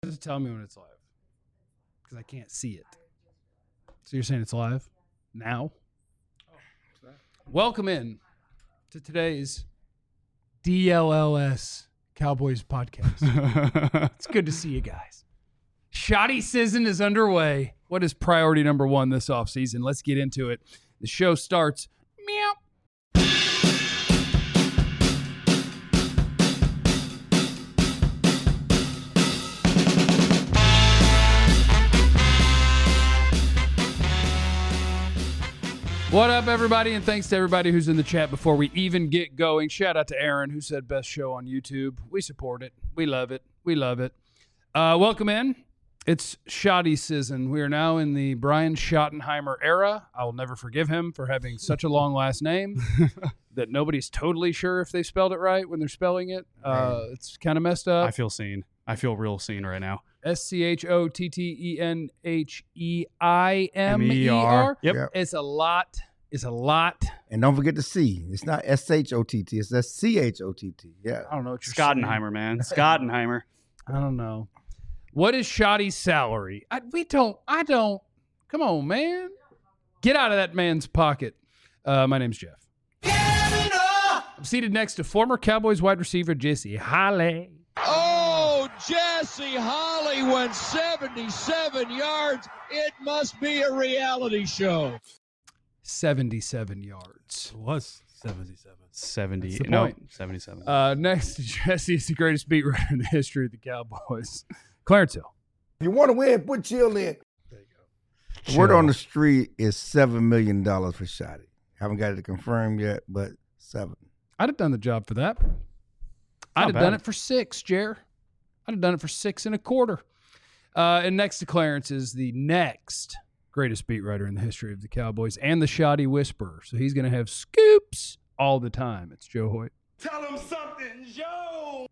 Just tell me when it's live, because I can't see it. So you're saying it's live now? Welcome in to today's DLLS Cowboys podcast. It's good to see you guys. Shoddy season is underway. What is priority number one this offseason? Let's get into it. The show starts. Meow. What up, everybody, and thanks to everybody who's in the chat before we even get going. Shout out to Aaron, who said best show on YouTube. We support it. We love it. We love it. Welcome in. It's Shoddy season. We are now in the Brian Schottenheimer era. I will never forgive him for having such a long last name that nobody's totally sure if they spelled it right when they're spelling it. It's kind of messed up. I feel seen. I feel real seen right now. SCHOTTENHEIMER. Yep. It's a lot. It's a lot. And don't forget the C. It's not SHOTT. It's SCHOTT. Yeah. I don't know what you're Schottenheimer, man. Schottenheimer. saying. I don't know. What is Shoddy's salary? I don't. Come on, man. Get out of that man's pocket. My name's Jeff. I'm seated next to former Cowboys wide receiver Jesse Holley. Oh, Jesse Holley went 77 yards. It must be a reality show. 77 yards. It was 77. 70. That's the No, point. 77. Next to Jesse is the greatest beat writer in the history of the Cowboys, Clarence Hill. If you want to win, put chill in. There you go. The word on the street is $7 million for Shoddy. Haven't got it confirmed yet, but 7. I'd have done the job for that. I'd have done it for 6, Jer. I'd have done it for 6 1/4. And next to Clarence is the next greatest beat writer in the history of the Cowboys and the Shoddy Whisperer. So he's going to have scoops all the time. It's Joe Hoyt. Tell him something, Joe.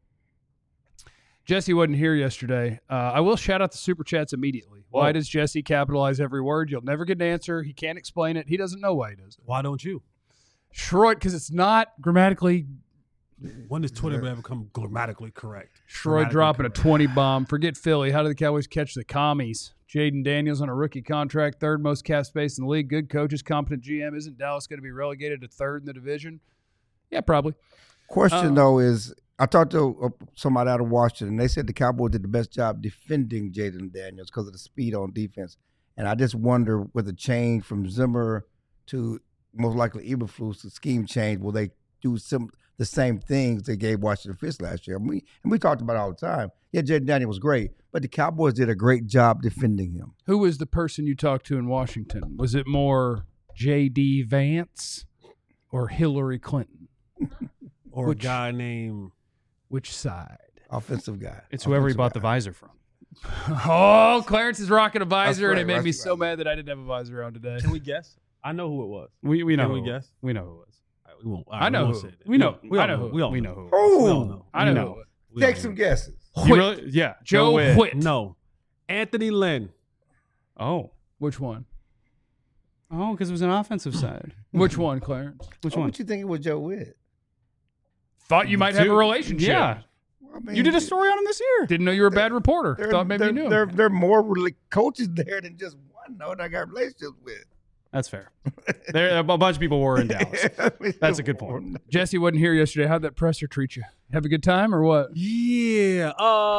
Jesse wasn't here yesterday. I will shout out the Super Chats immediately. Why Whoa. does Jesse capitalize every word? You'll never get an answer. He can't explain it. He doesn't know why he does it. Why don't you? Shroyd, because it's not grammatically. When does Twitter ever become grammatically correct? Shroyd dropping a 20 bomb. Forget Philly. How did the Cowboys catch the commies? Jaden Daniels on a rookie contract, third most cap space in the league. Good coaches, competent GM. Isn't Dallas going to be relegated to third in the division? Yeah, probably. Question, though, is I talked to somebody out of Washington, and they said the Cowboys did the best job defending Jaden Daniels because of the speed on defense. And I just wonder with the change from Zimmer to most likely Eberflus, the scheme change, will they do the same things they gave Washington Fish last year? And we talked about it all the time. Yeah, Jaden Daniels was great, but the Cowboys did a great job defending him. Who was the person you talked to in Washington? Was it more J.D. Vance or Hillary Clinton? Or a guy named... Which side? Offensive guy. It's whoever he Offensive bought the guy. visor from. Oh, Clarence is rocking a visor, That's and it right, made me that's so right. mad that I didn't have a visor on today. Can we guess? I know who it was. We know Can we who. guess? We know who it was. All right, we won't. I know we won't who. say that. We know. We I all know know. who. We all We know. know who. Oh, We all know. I We know. know. We all take know. some guesses. You really? Yeah. Joe Witt. Whitt. No. Anthony Lynn. Oh. Which one? Oh, because it was an offensive side. Which one, Clarence? Which Why one? would you think it was Joe Witt? Thought you might have a relationship. Yeah. I mean, You did a story on him this year. Didn't know you were a bad reporter. Thought maybe you knew him. There are more coaches there than just one, though, that I got relationships with. That's fair. There, a bunch of people were in Dallas. That's a good point. Jesse wasn't here yesterday. How'd that presser treat you? Have a good time or what? Yeah.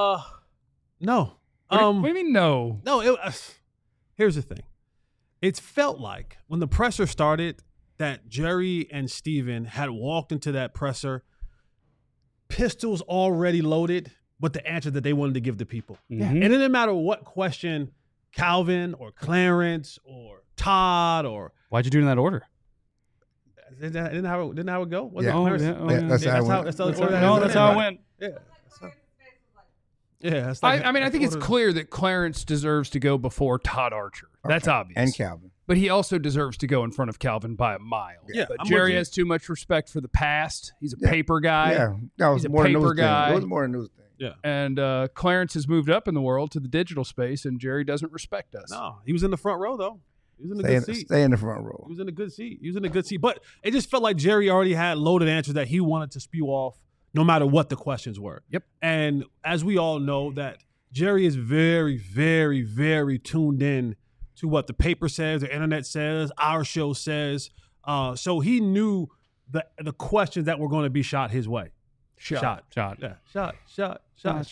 No. What do you mean no? No. Here's the thing. It felt like when the presser started that Jerry and Steven had walked into that presser, pistols already loaded, with the answer that they wanted to give the people. Mhm. And it didn't matter what question Calvin or Clarence or Todd or Why'd you do it in that order? didn't how it go? Was Yeah. it Oh, Clarence? yeah. Oh, Yeah, yeah. that's Yeah, how it went. that's the That's order how, that no, it that's went. how it went. Yeah. Yeah. That's like, I mean, I think it's order- clear that Clarence deserves to go before Todd Archer. That's obvious. And Calvin. But he also deserves to go in front of Calvin by a mile. Yeah, But I'm Jerry with you. has too much respect for the past. He's a Yeah. paper guy. Yeah, that was He's a more a paper news guy. thing. It was more a news thing. Yeah. And Clarence has moved up in the world to the digital space, and Jerry doesn't respect us. No, he was in the front row though. He was in a good seat. Stay in the front row. He was in a good seat. He was in a good seat. But it just felt like Jerry already had loaded answers that he wanted to spew off no matter what the questions were. Yep. And as we all know that Jerry is very, very, very tuned in to what the paper says, the internet says, our show says. So he knew the questions that were going to be shot his way. Shot. Yeah. Shot. They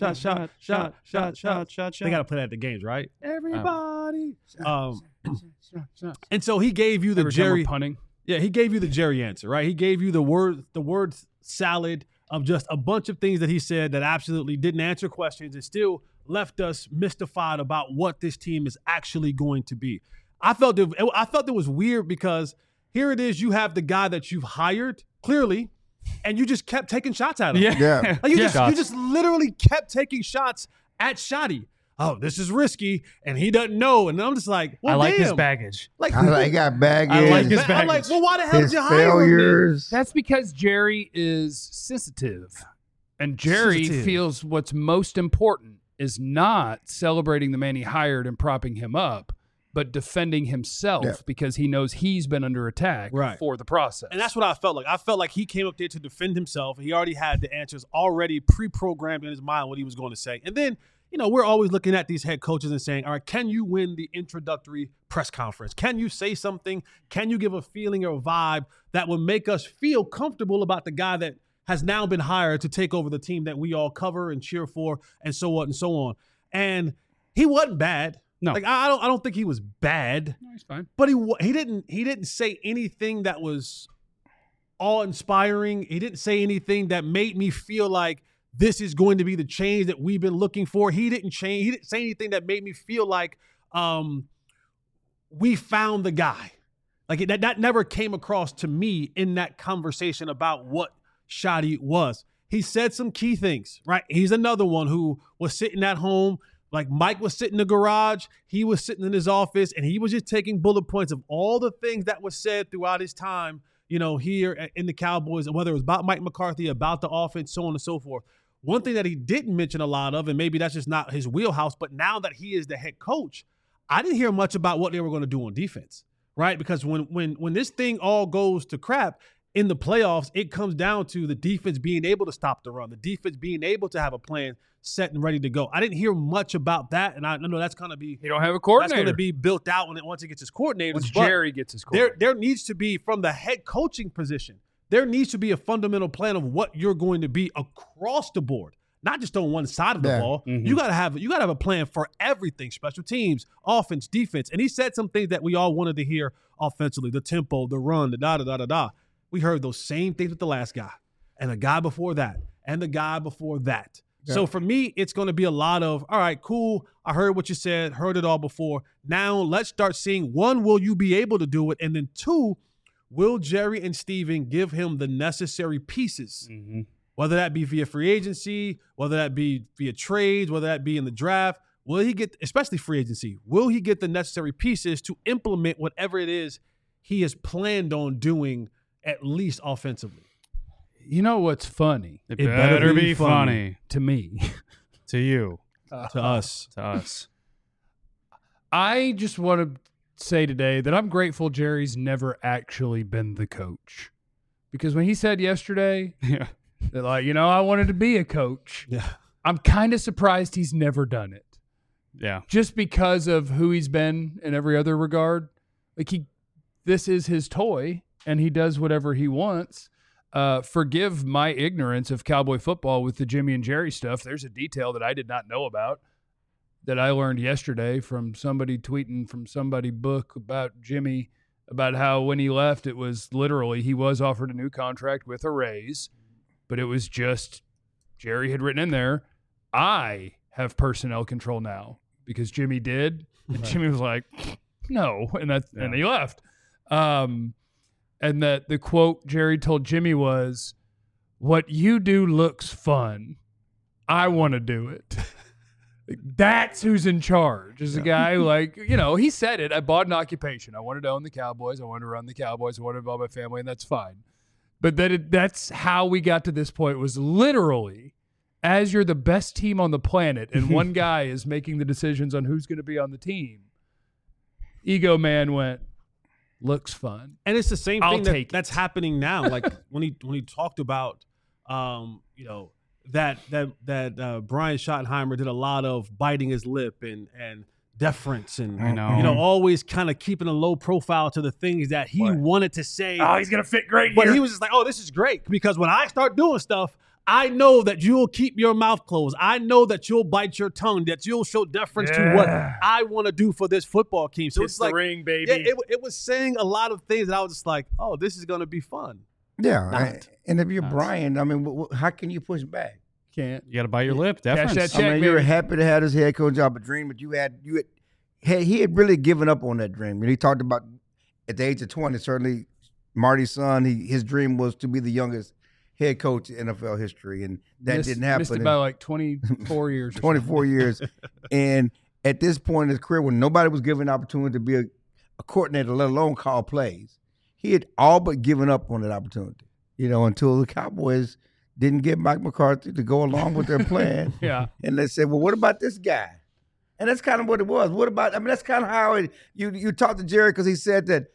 got to play that at the games, right? Everybody. And so he gave you the Every time we're Jerry punting. Yeah, he gave you the Jerry answer, right? He gave you the word salad of just a bunch of things that he said that absolutely didn't answer questions and still left us mystified about what this team is actually going to be. I felt it was weird because here it is, you have the guy that you've hired, clearly, and you just kept taking shots at him. Yeah. Like you just literally kept taking shots at Shotty. Oh, this is risky, and he doesn't know. And I'm just like, well, I like his damn. baggage. Like, He got baggage. I like his I'm like, baggage. well, why the hell his did you hire him? failures. That's because Jerry is sensitive. And Jerry Sensitive. feels what's most important is not celebrating the man he hired and propping him up, but defending himself Yeah. because he knows he's been under attack Right. for the process. And that's what I felt like. I felt like he came up there to defend himself. He already had the answers already pre-programmed in his mind what he was going to say. And then, we're always looking at these head coaches and saying, all right, can you win the introductory press conference? Can you say something? Can you give a feeling or a vibe that will make us feel comfortable about the guy that has now been hired to take over the team that we all cover and cheer for and so on and so on? And he wasn't bad. No. Like I don't think he was bad. No, he's fine. But he didn't say anything that was awe-inspiring. He didn't say anything that made me feel like this is going to be the change that we've been looking for. He didn't say anything that made me feel like we found the guy. Like that never came across to me in that conversation about what Shotty was. He said some key things, right? He's another one who was sitting at home. Like Mike was sitting in the garage, he was sitting in his office, and he was just taking bullet points of all the things that was said throughout his time, here in the Cowboys, whether it was about Mike McCarthy, about the offense, so on and so forth. One thing that he didn't mention a lot of, and maybe that's just not his wheelhouse, but now that he is the head coach, I didn't hear much about what they were going to do on defense, right? Because when this thing all goes to crap, in the playoffs, it comes down to the defense being able to stop the run, the defense being able to have a plan set and ready to go. I didn't hear much about that, and I know that's going to be You don't have a that's coordinator. going to be built out once it gets his coordinators. Once But Jerry gets his coordinator. there needs to be, from the head coaching position, there needs to be a fundamental plan of what you're going to be across the board, not just on one side of the ball. Mm-hmm. You got to have a plan for everything: special teams, offense, defense. And he said some things that we all wanted to hear offensively: the tempo, the run, the da. We heard those same things with the last guy, and the guy before that, and the guy before that. Yeah. So for me, it's going to be a lot of, all right, cool. I heard what you said, heard it all before. Now let's start seeing, one, will you be able to do it? And then two, will Jerry and Steven give him the necessary pieces, whether that be via free agency, whether that be via trades, whether that be in the draft? Will he get, especially free agency, will he get the necessary pieces to implement whatever it is he has planned on doing, at least offensively? You know what's funny It It better be funny to me? to you, To us. to us. I just want to say today that I'm grateful Jerry's never actually been the coach. Because when he said yesterday Yeah. that, I wanted to be a coach, Yeah. I'm kind of surprised he's never done it. Yeah. Just because of who he's been in every other regard. This is his toy, and he does whatever he wants. Forgive my ignorance of Cowboy football with the Jimmy and Jerry stuff. There's a detail that I did not know about that I learned yesterday from somebody tweeting from somebody book about Jimmy, about how when he left, it was literally he was offered a new contract with a raise, but it was just Jerry had written in there, I have personnel control now, because Jimmy did. And Jimmy was like, no. And he left. And that the quote Jerry told Jimmy was, what you do looks fun. I want to do it. That's who's in charge. Is a guy he said it. I bought an occupation. I wanted to own the Cowboys. I wanted to run the Cowboys. I wanted to involve my family, and that's fine. But that's how we got to this point, was literally as you're the best team on the planet and one guy is making the decisions on who's going to be on the team. Ego man went, looks fun. And it's the same I'll thing take that's happening now. Like when he talked about, that Brian Schottenheimer did a lot of biting his lip and deference and always kind of keeping a low profile to the things that he wanted to say. Oh, he's gonna fit great But here. he was just like, oh, this is great because when I start doing stuff, I know that you'll keep your mouth closed. I know that you'll bite your tongue, that you'll show deference to what I want to do for this football team. So it's the like, ring, baby. yeah, it was saying a lot of things that I was just like, oh, this is going to be fun. Yeah, and if you're Brian, I mean, how can you push back? Can't. You got to bite your lip. Deference. that I mean, check, you were baby. happy to have this head coach job, a dream, but he had really given up on that dream. And he talked about at the age of 20, certainly Marty's son, his dream was to be the youngest head coach in NFL history, and that didn't happen. Missed it by like 24 years. 24 years. And at this point in his career, when nobody was given an opportunity to be a coordinator, let alone call plays, he had all but given up on that opportunity, until the Cowboys didn't get Mike McCarthy to go along with their plan. Yeah. And they said, well, what about this guy? And that's kind of what it was. What about, that's kind of how you talked to Jerry because he said that,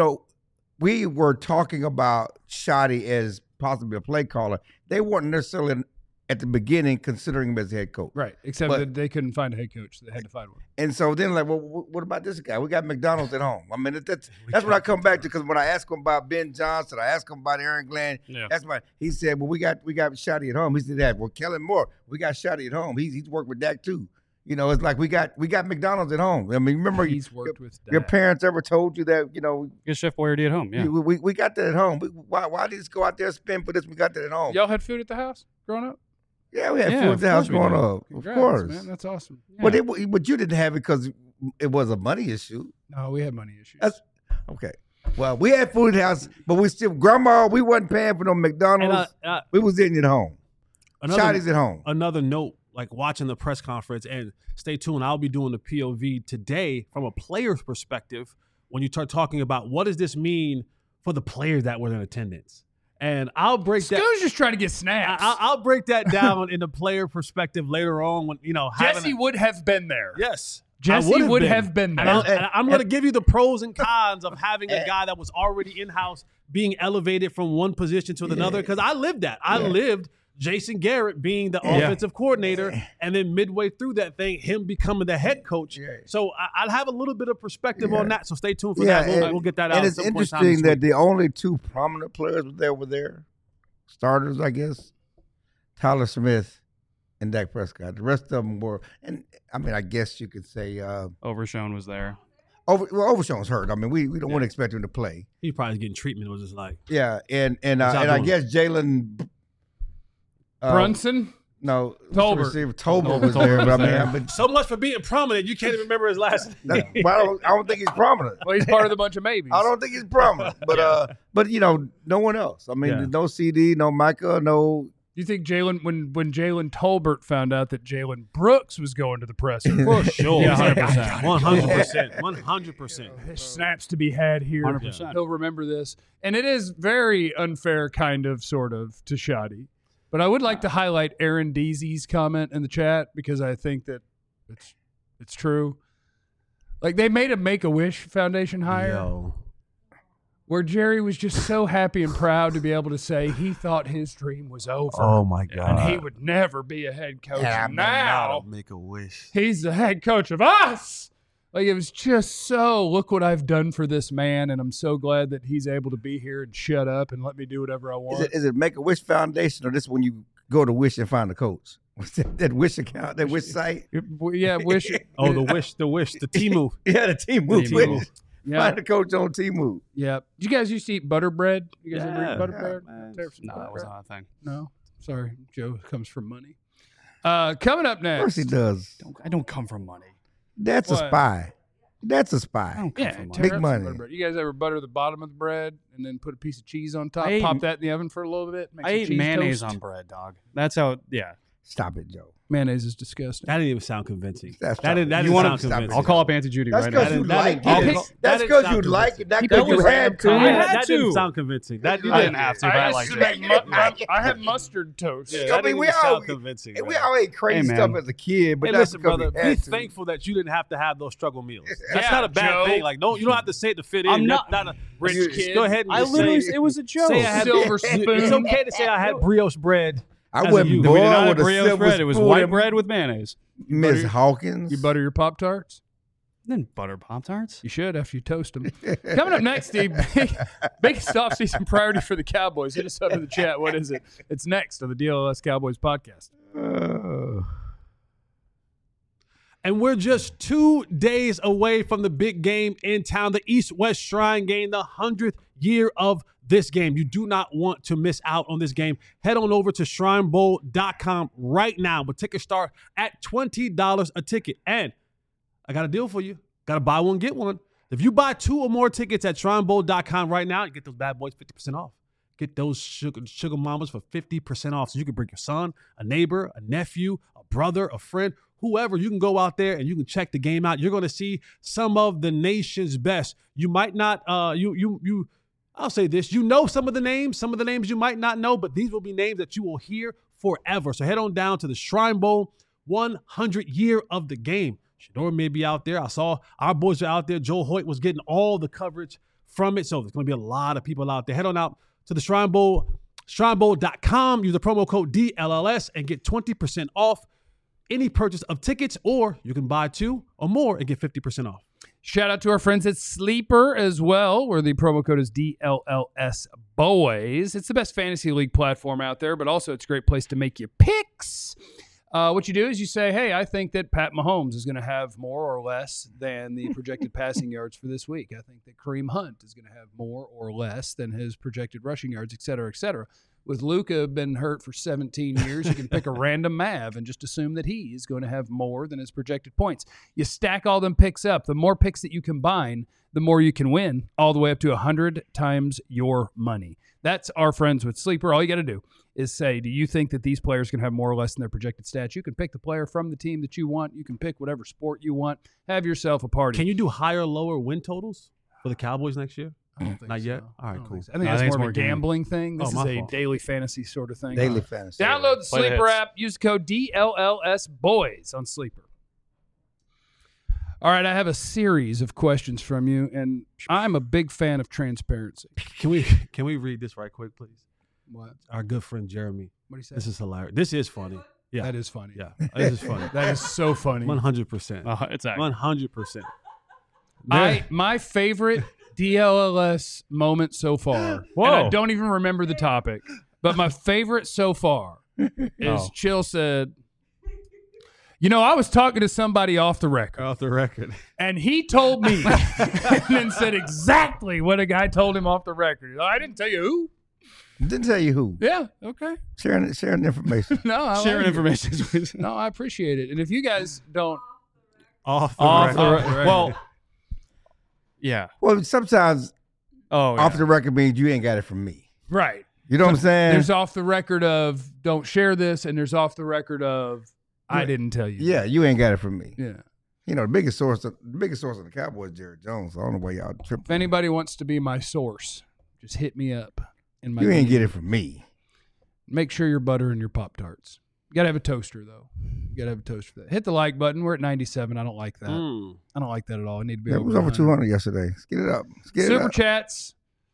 we were talking about Schotty as possibly a play caller. They weren't necessarily at the beginning considering him as a head coach. Right, except that they couldn't find a head coach. They had to find one. And so then well, what about this guy? We got McDonald's at home. I mean, that's what I come back to because when I asked him about Ben Johnson, I asked him about Aaron Glenn. Yeah. He said, well, we got Schotty at home. He said that. Well, Kellen Moore, we got Schotty at home. He's worked with Dak too. It's like we got McDonald's at home. I mean, remember He's worked with your Dak. parents ever told you that, Get Chef Boyardee at home. Yeah. we got that at home. Why did you just go out there and spend for this? We got that at home. Y'all had food at the house growing up? Yeah, we had Yeah, food at of the house course we growing did. up. Congrats, Of course. man. That's awesome. But you didn't have it because it was a money issue. No, we had money issues. Okay. Well, we had food at the house, but we wasn't paying for no McDonald's. We was eating at home. Schotty's at home. Another note, like watching the press conference, and stay tuned, I'll be doing the POV today from a player's perspective when you start talking about what does this mean for the players that were in attendance. And I'll break that. Sco's just trying to get snaps. I'll break that down in the player perspective later on when, Jesse would have been there. Yes. Jesse would have been there. And I'm going to give you the pros and cons of having a guy that was already in-house being elevated from one position to another because I lived that. I lived Jason Garrett being the offensive coordinator and then midway through that thing, him becoming the head coach. Yeah. So I'll have a little bit of perspective on that. So stay tuned for that. We'll get that out. And it's interesting that the only two prominent players were there, starters, I guess, Tyler Smith and Dak Prescott. The rest of them were, and I mean, I guess you could say Overshown was there. Overshown's hurt. I mean, we don't want to expect him to play. He probably getting treatment. It was just like and I guess Jalen Brunson? No, Tolbert. Tolbert was there, but I mean, so much for being prominent. You can't even remember his last name. I don't think he's prominent. Well, he's part of the bunch of maybes. I don't think he's prominent, but no one else. I mean, no CD, no Micah, no. You think when Jalen Tolbert found out that Jalen Brooks was going to the presser? For sure. Yeah, 100%. 100%. There's snaps to be had here. 100%. He'll remember this. And it is very unfair, kind of, sort of, to Schotty. But I would like to highlight Aaron Deasy's comment in the chat because I think that it's true. Like, they made a Make-A-Wish Foundation hire where Jerry was just so happy and proud to be able to say he thought his dream was over. Oh, my God. And he would never be a head coach. Yeah, now make a wish. he's the head coach of us. Like, it was just so, look what I've done for this man, and I'm so glad that he's able to be here and shut up and let me do whatever I want. Is it Make-A-Wish Foundation, or this when you go to Wish and find a coach? What's that Wish account, that Wish site? Yeah, Wish. Oh, the Temu. Yeah, the Temu. Wish. Yeah. Find a coach on Temu. Yeah. Did you guys used to eat butter bread? You guys ever eat butter Yeah, bread? No, that was not a thing. No? Sorry. Joe comes from money. Coming up Of course next. he does. I don't come from money. That's What? a spy. That's a I spy. don't come Yeah, from tear money. Big up some money. butter bread. You guys ever butter the bottom of the bread and then put a piece of cheese on top? I ate- Pop that in the oven for a little bit? Make I some ate cheese mayonnaise toast? on bread, dog. That's how. Yeah. Stop it, Joe. Mayonnaise is disgusting. That didn't even sound convincing. That's that didn't You want sound to? convincing. I'll call up Auntie Judy That's right now. because you like that it. didn't- That's that because didn't you sound like it. Not He because put you his had to. I had that didn't to. sound convincing. That I didn't have to, but I liked it. I have mustard toast. Yeah, I that mean, didn't we even all- sound convincing. We man. all ate crazy Hey, stuff man. as a kid, but Hey, that's listen, because brother. we Be had to. thankful that you didn't have to have those struggle meals. That's Yeah, not a bad Joe. thing. Like, no, you don't have to say it to fit in. I'm not- That's not a Rich kid. Go ahead and I just literally, say, it was a joke. say I had Silver spoon. It's okay to say I had brioche bread I As a wouldn't youth. We did not boil have with a brioche silver bread. It was spoon. white bread with mayonnaise. Miss Hawkins. You butter your Pop-Tarts? Then butter Pop-Tarts. You should after you toast them. Coming up next, Steve, biggest offseason priority for the Cowboys. Hit us up in the chat. What is it? It's next on the DLS Cowboys podcast. And we're just 2 days away from the big game in town, the East-West Shrine game, the 100th year of this game. You do not want to miss out on this game. Head on over to shrinebowl.com right now. But tickets start at $20 a ticket. And I got a deal for you. Got to buy one, get one. If you buy 2 or more tickets at shrinebowl.com right now, you get those bad boys 50% off. Get those sugar mamas for 50% off. So you can bring your son, a neighbor, a nephew, a brother, a friend, whoever. You can go out there and you can check the game out. You're going to see some of the nation's best. You might not, I'll say this. You know some of the names you might not know, but these will be names that you will hear forever. So head on down to the Shrine Bowl 100 year of the game. Shador may be out there. I saw our boys are out there. Joe Hoyt was getting all the coverage from it. So there's going to be a lot of people out there. Head on out to the Shrine Bowl, shrinebowl.com. Use the promo code DLLS and get 20% off any purchase of tickets, or you can buy 2 or more and get 50% off. Shout out to our friends at Sleeper as well, where the promo code is DLLS Boys. It's the best fantasy league platform out there, but also it's a great place to make your picks. What you do is you say, hey, I think that Pat Mahomes is going to have more or less than the projected passing yards for this week. I think that Kareem Hunt is going to have more or less than his projected rushing yards, et cetera, et cetera. With Luka been hurt for 17 years, you can pick a random Mav and just assume that he is going to have more than his projected points. You stack all them picks up. The more picks that you combine, the more you can win, all the way up to 100 times your money. That's our friends with Sleeper. All you got to do is say, do you think that these players can have more or less than their projected stats? You can pick the player from the team that you want. You can pick whatever sport you want. Have yourself a party. Can you do higher or lower win totals for the Cowboys next year? I don't think Not so. yet? All right, cool. I think that's more of a gambling thing. This is a daily fantasy sort of thing. Daily fantasy. Download the Play the Sleeper hits. app. Use code DLLS Boys on Sleeper. All right, I have a series of questions from you, and I'm a big fan of transparency. Can we read this right quick, please? What? Our good friend Jeremy. What do you say? This is hilarious. This is funny. Yeah. That is funny. Yeah. This is funny. That is so funny. 100%. It's accurate. 100%. My favorite DLLS moment so far, Whoa. and I don't even remember the topic, but my favorite so far is Chill said, you know, I was talking to somebody off the record, Off the record. and he told me and then said exactly what a guy told him off the record. I didn't tell you who. Didn't tell you who. Yeah, okay. Sharing information. No, I Sharing like it. information. No, I appreciate it. And if you guys don't, Off the Off record. the Off the record. Well, yeah. Well, sometimes Oh, off yeah. the record means you ain't got it from me. right. You know what I'm saying? There's off the record of don't share this, and there's off the record of I didn't tell you. Yeah, you ain't got it from me. Yeah. You know, the biggest source of the Cowboys is Jerry Jones. So I don't know why y'all tripping. If anybody wants to be my source, just hit me up. In my You ain't DM. get it from me. Make sure you're buttering your Pop-Tarts. You got to have a toaster, though. You got to have a toaster for that. Hit the like button. We're at 97. I don't like that. I don't like that at all. I need to be Yeah, it was over 200 yesterday. Let's get it up. Let's get it Super up. chats.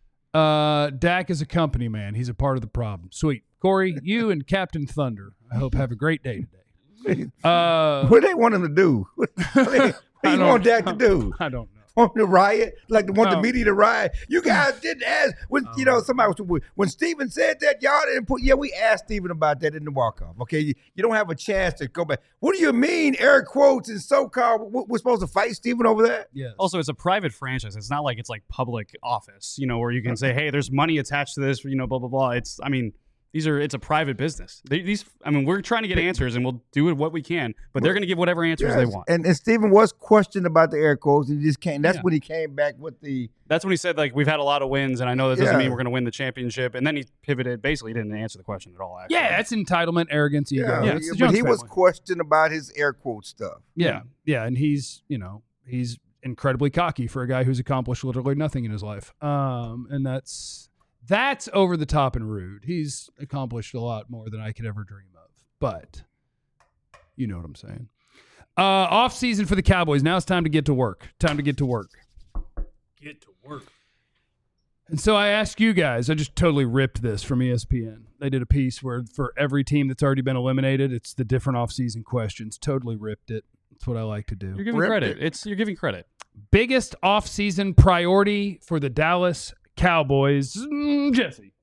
Dak is a company man. He's a part of the problem. Sweet. Corey, you and Captain Thunder, I hope have a great day today. What they want him to do? What do you want Dak to do? I don't know. Want to riot? Like they want No. the media to riot? You guys didn't ask. When you know somebody was, when Steven said that, y'all didn't put. Yeah, we asked Steven about that in the walk-off. Okay, you don't have a chance to go back. What do you mean, air quotes and so-called? We're supposed to fight Steven over that? Yes. Also, it's a private franchise. It's not like it's like public office, you know, where you can say, hey, there's money attached to this, you know, blah, blah, blah. It's a private business. We're trying to get answers, and we'll do what we can, but they're going to give whatever answers they Yes. want. And Steven was questioned about the air quotes, and he just came. That's Yeah. when he came back with the. That's when he said, like, we've had a lot of wins, and I know that doesn't Yeah. mean we're going to win the championship. And then he pivoted. Basically, he didn't answer the question at all, actually. Yeah, that's entitlement, arrogance, ego. Yeah, It's the but Jones he was family. questioned about his air quote stuff. Yeah, and he's incredibly cocky for a guy who's accomplished literally nothing in his life. And that's over the top and rude. He's accomplished a lot more than I could ever dream of. But you know what I'm saying. Off season for the Cowboys. Now it's time to get to work. Get to work. And so I ask you guys, I just totally ripped this from ESPN. They did a piece where for every team that's already been eliminated, it's the different offseason questions. Totally ripped it. That's what I like to do. You're giving credit. You're giving credit. Biggest offseason priority for the Dallas Cowboys, Jesse.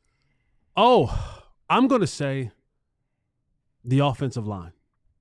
Oh, I'm going to say the offensive line.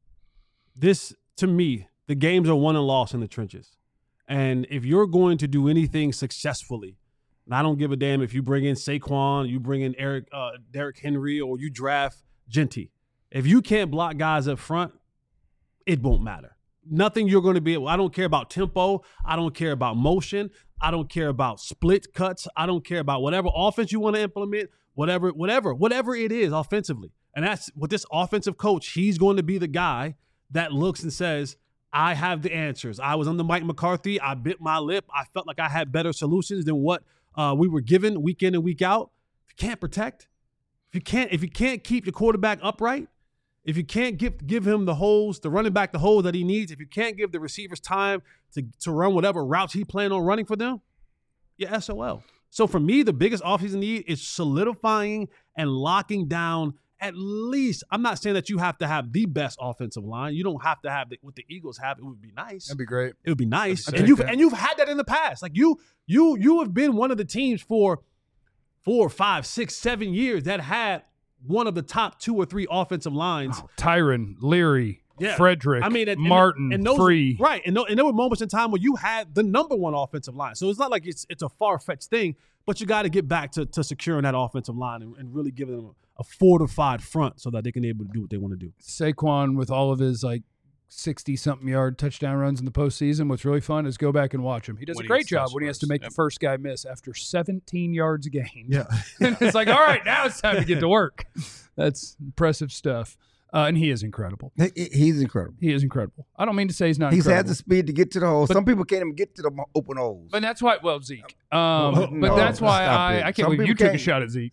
This, to me, the games are won and lost in the trenches. And if you're going to do anything successfully, and I don't give a damn if you bring in Saquon, you bring in Derrick Henry, or you draft Genty. If you can't block guys up front, it won't matter. Nothing you're going to be able. I don't care about tempo. I don't care about motion. I don't care about split cuts. I don't care about whatever offense you want to implement, whatever it is offensively. And that's with this offensive coach. He's going to be the guy that looks and says, I have the answers. I was under Mike McCarthy. I bit my lip. I felt like I had better solutions than what we were given week in and week out. If you can't protect, if you can't keep your quarterback upright, if you can't give him the holes, the running back the holes that he needs, if you can't give the receivers time to run whatever routes he planned on running for them, you're SOL. So for me, the biggest offseason need is solidifying and locking down at least. I'm not saying that you have to have the best offensive line. You don't have to have what the Eagles have. It would be nice. That'd be great. It would be nice. And you've had that in the past. Like you have been one of the teams for 4, 5, 6, 7 years that had one of the top 2 or 3 offensive lines. Tyron, Leary, Frederick, Martin, Free. Right. And there were moments in time where you had the number 1 offensive line. So it's not like it's a far-fetched thing, but you got to get back to securing that offensive line and really giving them a fortified front so that they can be able to do what they want to do. Saquon, with all of his 60-something yard touchdown runs in the postseason, what's really fun is go back and watch him. He does a great job when he has to make the first guy miss after 17 yards a game. Yeah. And it's like, all right, now it's time to get to work. That's impressive stuff. And he is incredible. He's incredible. He is incredible. I don't mean to say he's not He's incredible. had the speed to get to the hole. Some people can't even get to the open holes. But that's why, Zeke. But that's why I can't believe you took a shot at Zeke.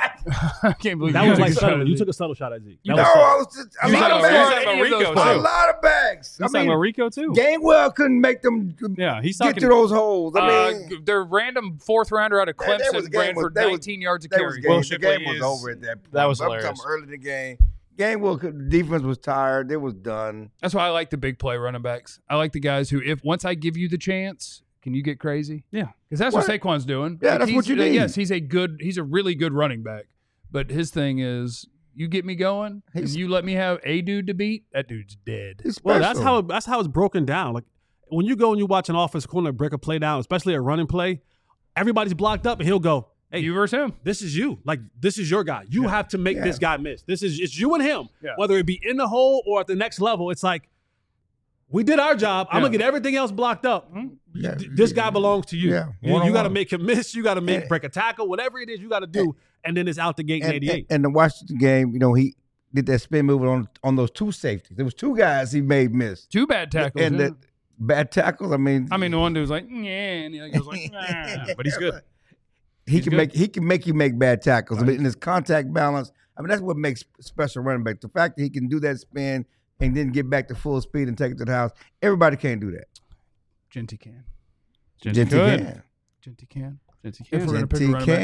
I can't believe that you was took like a shot subtle. at You Zeke. took a subtle shot at Zeke. A lot of Rico, bags. too. A lot of bags. He's talking about Rico, too. Gainwell couldn't make them he's get talking to those holes. I mean, their random 4th rounder out of Clemson ran for 19 yards a carry. The game was over at that point. That was I'm hilarious. talking early in the game. Gainwell, defense was tired. It was done. That's why I like the big play running backs. I like the guys who, if once I give you the chance, can you get crazy? Yeah, because that's what Saquon's doing. Yeah, that's what you need. Yes, he's a really good running back. But his thing is, you get me going, and you let me have a dude to beat. That dude's dead. Well, that's how it's broken down. Like when you go and you watch an offensive corner break a play down, especially a running play, everybody's blocked up, and he'll go, hey, you versus him. This is you. Like, this is your guy. You have to make this guy miss. It's you and him. Yeah. Whether it be in the hole or at the next level, it's like, we did our job. I'm going to get everything else blocked up. Yeah. This guy belongs to you. Yeah. You got to make him miss. You got to break a tackle. Whatever it is you got to do. And then it's out the gate in 88. And the Washington game, he did that spin move on those 2 safeties. There was 2 guys he made miss. 2 bad tackles. And the bad tackles, the one dude was like, yeah, and he goes like, nah. But he's good. He can make you make bad tackles. In his contact balance, that's what makes special running back. The fact that he can do that spin and then get back to full speed and take it to the house. Everybody can't do that. Genty can. Genty can. Genty can. If we're gonna pick a running back.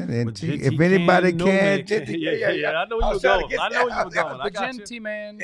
If anybody can, Genty. Yeah. I know you were going. I know you were going. I got Genty man.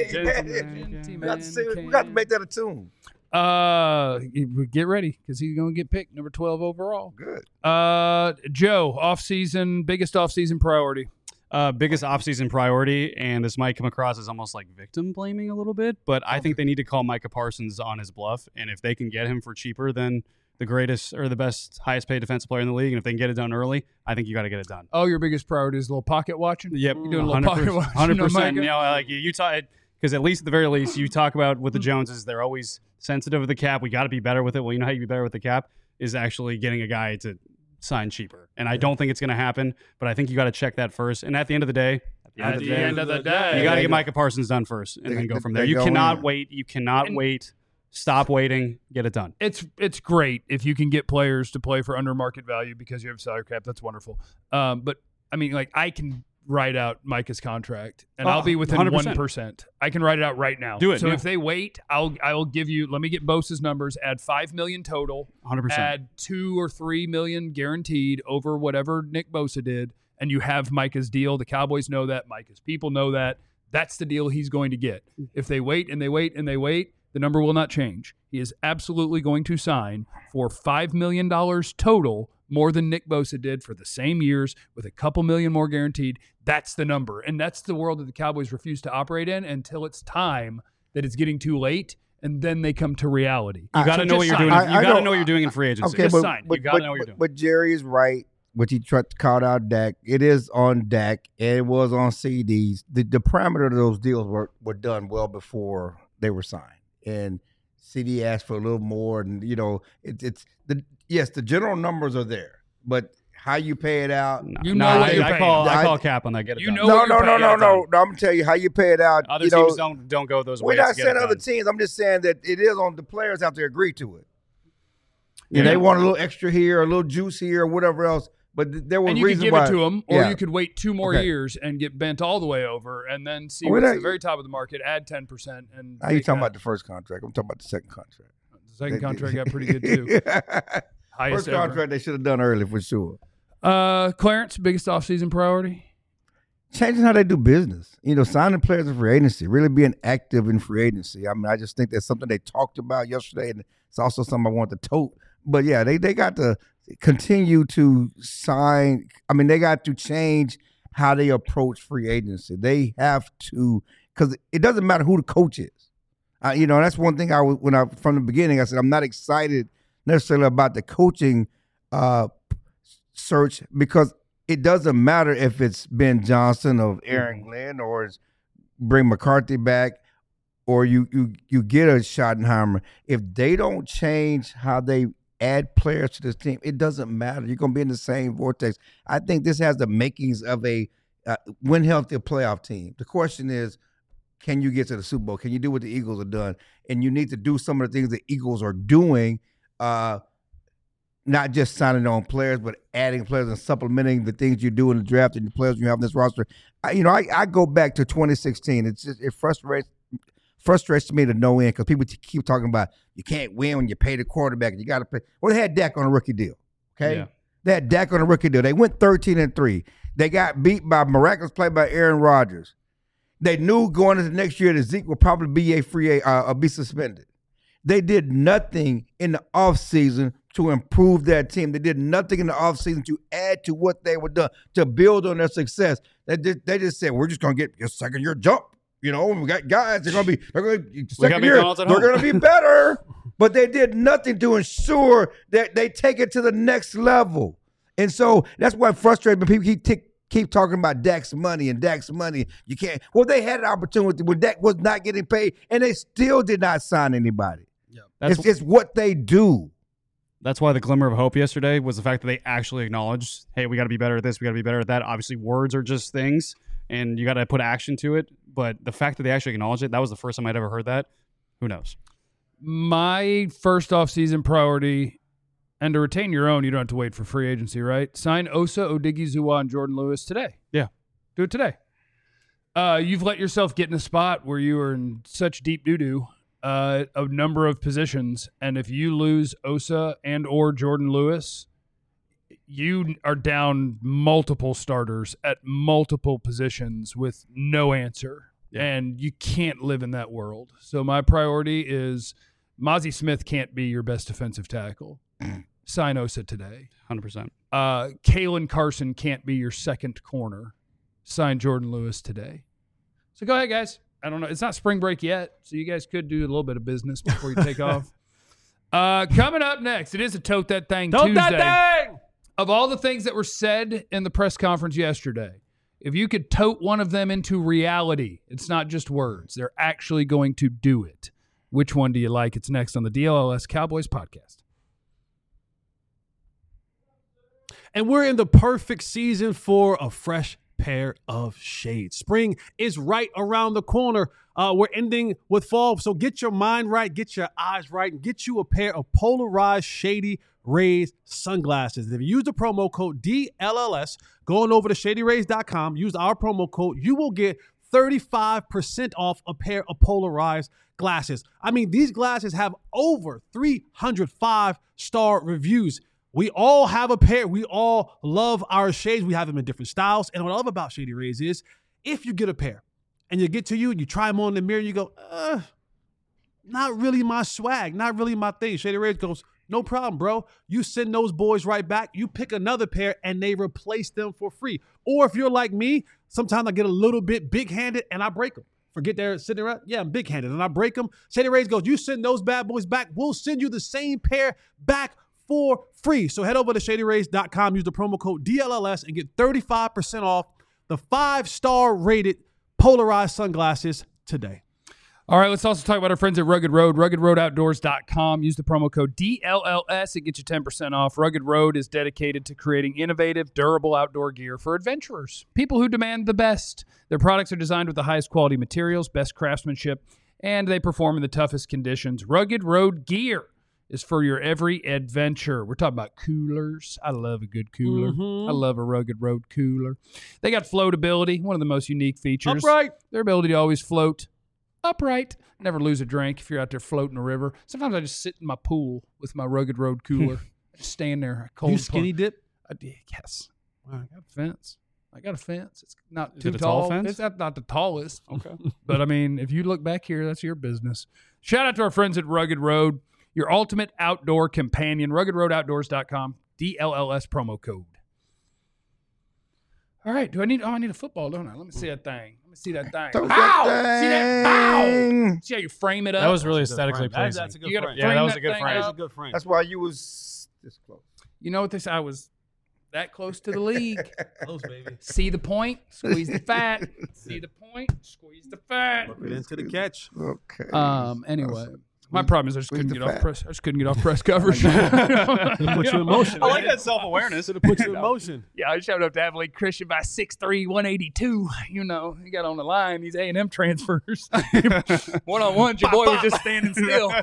We got to make that a tune. Get ready because he's going to get picked number 12 overall. Good. Joe, biggest off-season priority. Biggest offseason priority, and this might come across as almost like victim blaming a little bit, but I think they need to call Micah Parsons on his bluff, and if they can get him for cheaper than the greatest or the best, highest paid defensive player in the league, and if they can get it done early, I think you got to get it done. Oh, your biggest priority is a little pocket watching? Yep. You're doing a little pocket watching. 100%. You talk, because at least at the very least, you talk about with the Joneses, they're always sensitive of the cap. We got to be better with it. Well, you know how you be better with the cap is actually getting a guy to sign cheaper. And I don't think it's going to happen, but I think you got to check that first. And at the end of the day, you got to get Micah Parsons done first and then go from there. You cannot wait. You cannot wait. Stop waiting. Get it done. It's great if you can get players to play for under market value because you have salary cap. That's wonderful. But I mean, like I can write out Micah's contract, and I'll be within 100%. 1%. I can write it out right now. Do it, So yeah. if they wait, I will give you. Let me get Bosa's numbers. Add $5 million total. 100%. Add $2 or $3 million guaranteed over whatever Nick Bosa did, and you have Micah's deal. The Cowboys know that. Micah's people know that. That's the deal he's going to get. If they wait and they wait and they wait, the number will not change. He is absolutely going to sign for $5 million total, more than Nick Bosa did for the same years, with a couple million more guaranteed. That's the number. And that's the world that the Cowboys refuse to operate in until it's time that it's getting too late, and then they come to reality. You got to know what you're doing. You got to know what you're doing in free agency. Okay, Just but, sign. but, You gotta but- know what you're doing. But Jerry is right. What he called out Dak. It is on Dak, and it was on CDs. The parameter of those deals were done well before they were signed. And CD asked for a little more, and the general numbers are there, but how you pay it out. You know what you're I paying. call cap on that. Get it You done. know No, what no, you're no, paying. no, no, no. I'm gonna tell you how you pay it out. Other you teams know, don't go those we're ways. not to get saying it other done. teams. I'm just saying that it is on the players have to agree to it. Yeah. They want a little extra here, a little juice here, or whatever else. But there were And you could reasons give why. it to them, or Yeah. you could wait 2 more Okay. years and get bent all the way over, and then see Well, what's that- the very top of the market, add 10%. And Now you take talking that. about the first contract? I'm talking about the second contract. The second contract got pretty good too. Highest First ever. contract they should have done early for sure. Clarence, biggest offseason priority? Changing how they do business. Signing players in free agency, really being active in free agency. I mean, I just think that's something they talked about yesterday, and it's also something I want to tote. But yeah, they got to continue to sign. I mean, they got to change how they approach free agency. They have to, because it doesn't matter who the coach is. That's one thing from the beginning, I said, I'm not excited necessarily about the coaching search, because it doesn't matter if it's Ben Johnson or Aaron Glenn or it's bring McCarthy back or you get a Schottenheimer. If they don't change how they add players to this team, it doesn't matter. You're going to be in the same vortex. I think this has the makings of a win healthy playoff team. The question is, can you get to the Super Bowl? Can you do what the Eagles have done? And you need to do some of the things the Eagles are doing, not just signing on players, but adding players and supplementing the things you do in the draft and the players you have in this roster. I go back to 2016. It frustrates me to no end, because people keep talking about you can't win when you pay the quarterback. You got to pay. Well, they had Dak on a rookie deal. Okay, Yeah. They had Dak on a rookie deal. They went 13-3. They got beat by miraculous play by Aaron Rodgers. They knew going into next year that Zeke would probably be be suspended. They did nothing in the offseason to improve that team. They did nothing in the offseason to add to what they were done, to build on their success. They just said, we're just going to get a second-year jump. We got guys, they're going to be second year, McDonald's at they're home. going to be better. But they did nothing to ensure that they take it to the next level. And so that's what frustrates me. People keep talking about Dak's money and Dak's money. You can't. Well, they had an opportunity when Dak was not getting paid, and they still did not sign anybody. It's what they do. That's why the glimmer of hope yesterday was the fact that they actually acknowledged, hey, we got to be better at this, we got to be better at that. Obviously, words are just things, and you got to put action to it. But the fact that they actually acknowledged it, that was the first time I'd ever heard that. Who knows? My first offseason priority, and to retain your own, you don't have to wait for free agency, right? Sign Osa, Odighizuwa, and Jordan Lewis today. Yeah. Do it today. You've let yourself get in a spot where you are in such deep doo-doo, a number of positions, and if you lose Osa and or Jordan Lewis, you are down multiple starters at multiple positions with no answer. Yeah. And you can't live in that world. So my priority is Mozzie Smith can't be your best defensive tackle. Sign Osa today. 100%. Kalen Carson can't be your second corner. Sign Jordan Lewis today. So go ahead, guys. I don't know. It's not spring break yet, so you guys could do a little bit of business before you take off. Coming up next, it is a Tote That Thing Tuesday. That thing! Of all the things that were said in the press conference yesterday, if you could tote one of them into reality, it's not just words. They're actually going to do it. Which one do you like? It's next on the DLLS Cowboys podcast. And we're in the perfect season for a fresh pair of shades. Spring is right around the corner. We're ending with fall, so get your mind right, get your eyes right, and get you a pair of polarized Shady Rays sunglasses. If you use the promo code DLLS, going over to ShadyRays.com, use our promo code, you will get 35% off a pair of polarized glasses. I mean, these glasses have over 305-star reviews. We all have a pair. We all love our shades. We have them in different styles. And what I love about Shady Rays is if you get a pair and you get to you and you try them on in the mirror, you go, not really my swag, not really my thing. Shady Rays goes, no problem, bro. You send those boys right back. You pick another pair and they replace them for free. Or if you're like me, sometimes I get a little bit big-handed and I break them. Forget they're sitting around. Yeah, I'm big-handed and I break them. Shady Rays goes, you send those bad boys back. We'll send you the same pair back for free. So head over to ShadyRays.com, use the promo code DLLS and get 35% off the 5-star rated polarized sunglasses today. All right, let's also talk about our friends at Rugged Road, ruggedroadoutdoors.com. Use the promo code DLLS. It gets you 10% off. Rugged Road is dedicated to creating innovative, durable outdoor gear for adventurers, people who demand the best. Their products are designed with the highest quality materials, best craftsmanship, and they perform in the toughest conditions. Rugged Road gear is for your every adventure. We're talking about coolers. I love a good cooler. I love a Rugged Road cooler. They got floatability, one of the most unique features. Upright. Their ability to always float upright. Never lose a drink if you're out there floating a river. Sometimes I just sit in my pool with my Rugged Road cooler. Just stand there. Cold You skinny dip? I did, yes. I got a fence. It's not Is too it a tall. tall fence? It's not the tallest. Okay. But, I mean, if you look back here, that's your business. Shout out to our friends at Rugged Road, your ultimate outdoor companion, ruggedroadoutdoors.com, DLLS promo code. All right. I need a football, don't I? Let me see that thing. See that thing. Throw Bow! that See that? Bow! thing. See how you frame it up? That was really That's a good aesthetically frame. pleasing. That's a good You gotta frame. Yeah, frame that was a good thing frame. That's a up. good frame. That's why you was this close. You know what they say? I was that close to the league. Close, baby. See the point? Squeeze the fat. See the point? Squeeze the fat. Look it into the catch. Okay. Anyway, my problem is I just squeeze couldn't the get off fat. press. I just couldn't get off press coverage. Put you in motion. I like man. that self-awareness. It'll put you in motion. Yeah, I showed up to Abilene Christian by 6'3", 182. You know, he got on the line. These A&M transfers. One-on-one, your boy was just standing still.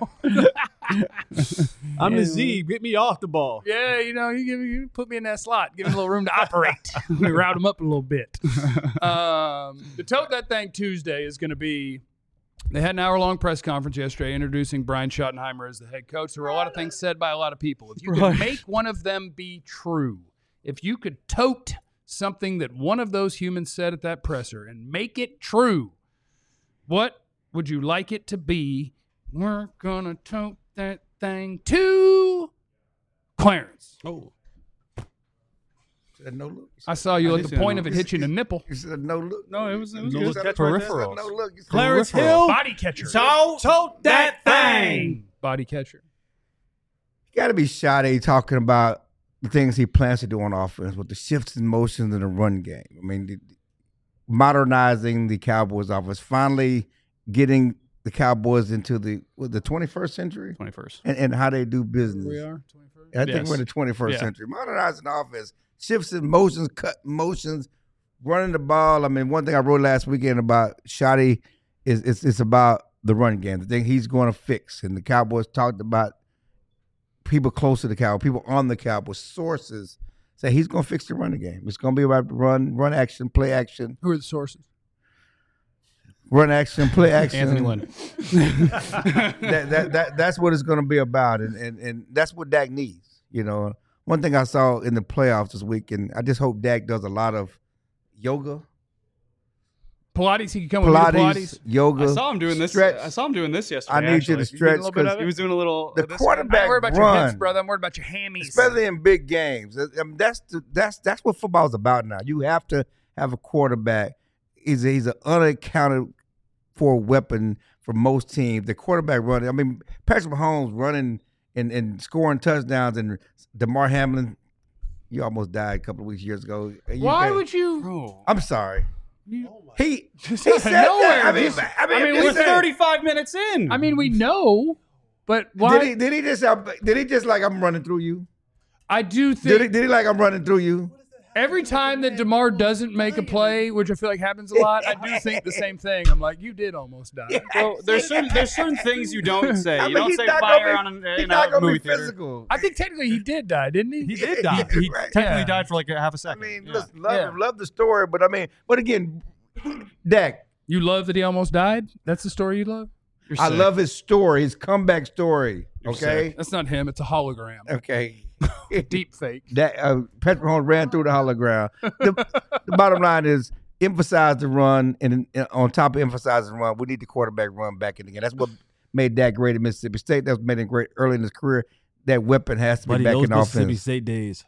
I'm the Z. Get me off the ball. Yeah, you know, you put me in that slot. Give me a little room to operate. We route him up a little bit. The Tote That Thing Tuesday is going to be, they had an hour-long press conference yesterday introducing Brian Schottenheimer as the head coach. There were a lot of things said by a lot of people. If you could make one of them be true, if you could tote something that one of those humans said at that presser and make it true, what would you like it to be? We're going to tote that thing to Clarence. Oh. Said no look. I saw you I at did the see that point of no it hit you in the nipple. You said no look. No, it was No good. look catch right there. Peripherals. No look. You said Clarence peripheral. Hill. Body catcher. Tote that thing. Body catcher. You got to be Sade talking about the things he plans to do on offense with the shifts and motions in the run game. I mean, modernizing the Cowboys offense, finally getting the Cowboys into the 21st century 21st. and how they do business. We are 21st. I think Yes. we're in the 21st Yeah. century. Modernizing the offense, shifts in motions, cut motions, running the ball. I mean, one thing I wrote last weekend about Shoddy is it's about the run game, the thing he's going to fix. And the Cowboys talked about people close to the Cowboys, people on the Cowboys, sources say he's going to fix the running game. It's going to be about run action, play action, Who are the sources? run action, play action. Anthony Lynn. That's what it's going to be about, and that's what Dak needs. You know, one thing I saw in the playoffs this week, and I just hope Dak does a lot of yoga, Pilates. He could come with me to Pilates. yoga. I saw him doing this. stretch. I saw him doing this yesterday. I need you to actually. stretch little bit of because He was doing a little. the this quarterback I'm worried about your hips, run, brother. I'm worried about your hammies. especially in big games. I mean, that's what football's about now. You have to have a quarterback. He's an unaccounted for weapon for most teams. The quarterback running. I mean, Patrick Mahomes running and scoring touchdowns, and DeMar Hamlin. You almost died a couple of years ago. Why would you? Bro. I'm sorry. He Just he out of said nowhere, that. I mean, just- We're listen, 35 minutes in. I mean, we know, but why? Did he just like I'm running through you? I do Did think he like I'm running through you? Every time that DeMar doesn't make a play, which I feel like happens a lot, I do think the same thing. I'm like, you did almost die. Well, there's certain things you don't say. I You mean, don't he's say not fire gonna on he's in not a gonna movie be theater. physical. I think technically he did die, didn't he? He did die. He technically Yeah. died for like a half a I second. mean, Yeah. listen, Yeah. love the story, but again, Dak, You love that he almost died? That's the story you love? You're I sick. love his story, his comeback story. You're Okay, That's not him. It's a hologram. okay. Deep fake. That Patrick Mahomes ran through the hologram. The bottom line is emphasize the run, and on top of emphasizing the run, we need the quarterback run back in again. That's what made Dak great at Mississippi State. That's made him great early in his career. That weapon has to be Buddy, back those in Mississippi offense. State days,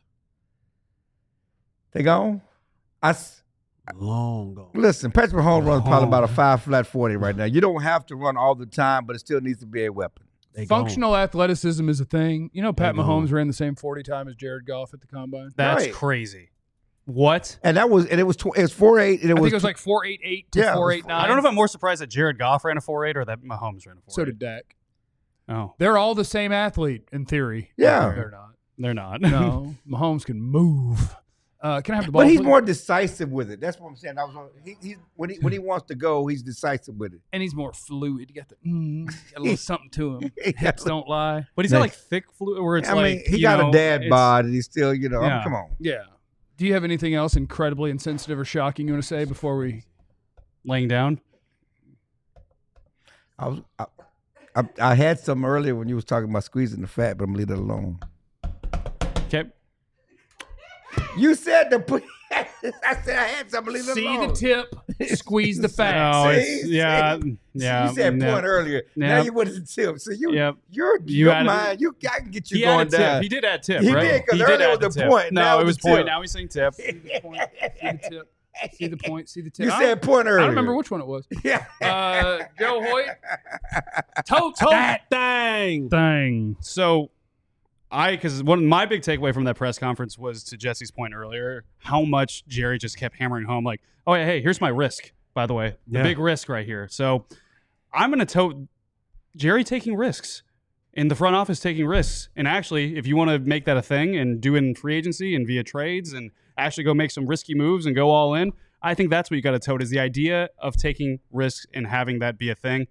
They gone. long gone. Listen, Patrick Mahomes runs probably about a 5 40 right now. You don't have to run all the time, but it still needs to be a weapon. They gone. Functional athleticism is a thing. You know, Pat They Mahomes gone. ran the same 40 time as Jared Goff at the combine. That's Right. crazy. What? And it was 4.8, and I think it was like 4.88 to Yeah, it was 4.89. I don't know if I'm more surprised that Jared Goff ran a 4.8 or that Mahomes ran a 4.8. So did Dak. Oh, They're all the same athlete in theory. Yeah. They're not. they're not. No, Mahomes can move. Can I have the ball? But he's please? more decisive with it. That's what I'm saying. He's when he wants to go, he's decisive with it. And he's more fluid. You got got a little something to him. Hips don't lie. But he's got like thick fluid where it's I like mean, he you got know, a dad it's- bod, and he's still, you know, I mean, Yeah. come on. Yeah. Do you have anything else incredibly insensitive or shocking you want to say before we? laying down. I had some earlier when you was talking about squeezing the fat, but I'm gonna leave that alone. Okay. You said I said I had some. Leave it See alone. the tip, squeeze the fat. No, See? it's yeah. You said no. point earlier. Now Yep. you went to the tip. So Yep. your added- mind, I can get you He going added tip. down. He did add tip, He right? did, 'cause He earlier add was the tip. point, now No, it it's was the point. tip. Now he's saying tip. See the tip. See the point. See the tip. You I said point I earlier. don't remember which one it was. Yeah. Joe Hoyt. Tote Tote that thing. thing. So, because one of my big takeaway from that press conference was to Jesse's point earlier, how much Jerry just kept hammering home, like, oh yeah, hey, here's my risk. By the way, the Yeah. big risk right here. So, I'm gonna tote Jerry taking risks. In the front office taking risks. And actually, if you want to make that a thing and do it in free agency and via trades and actually go make some risky moves and go all in, I think that's what you got to tote is the idea of taking risks and having that be a thing.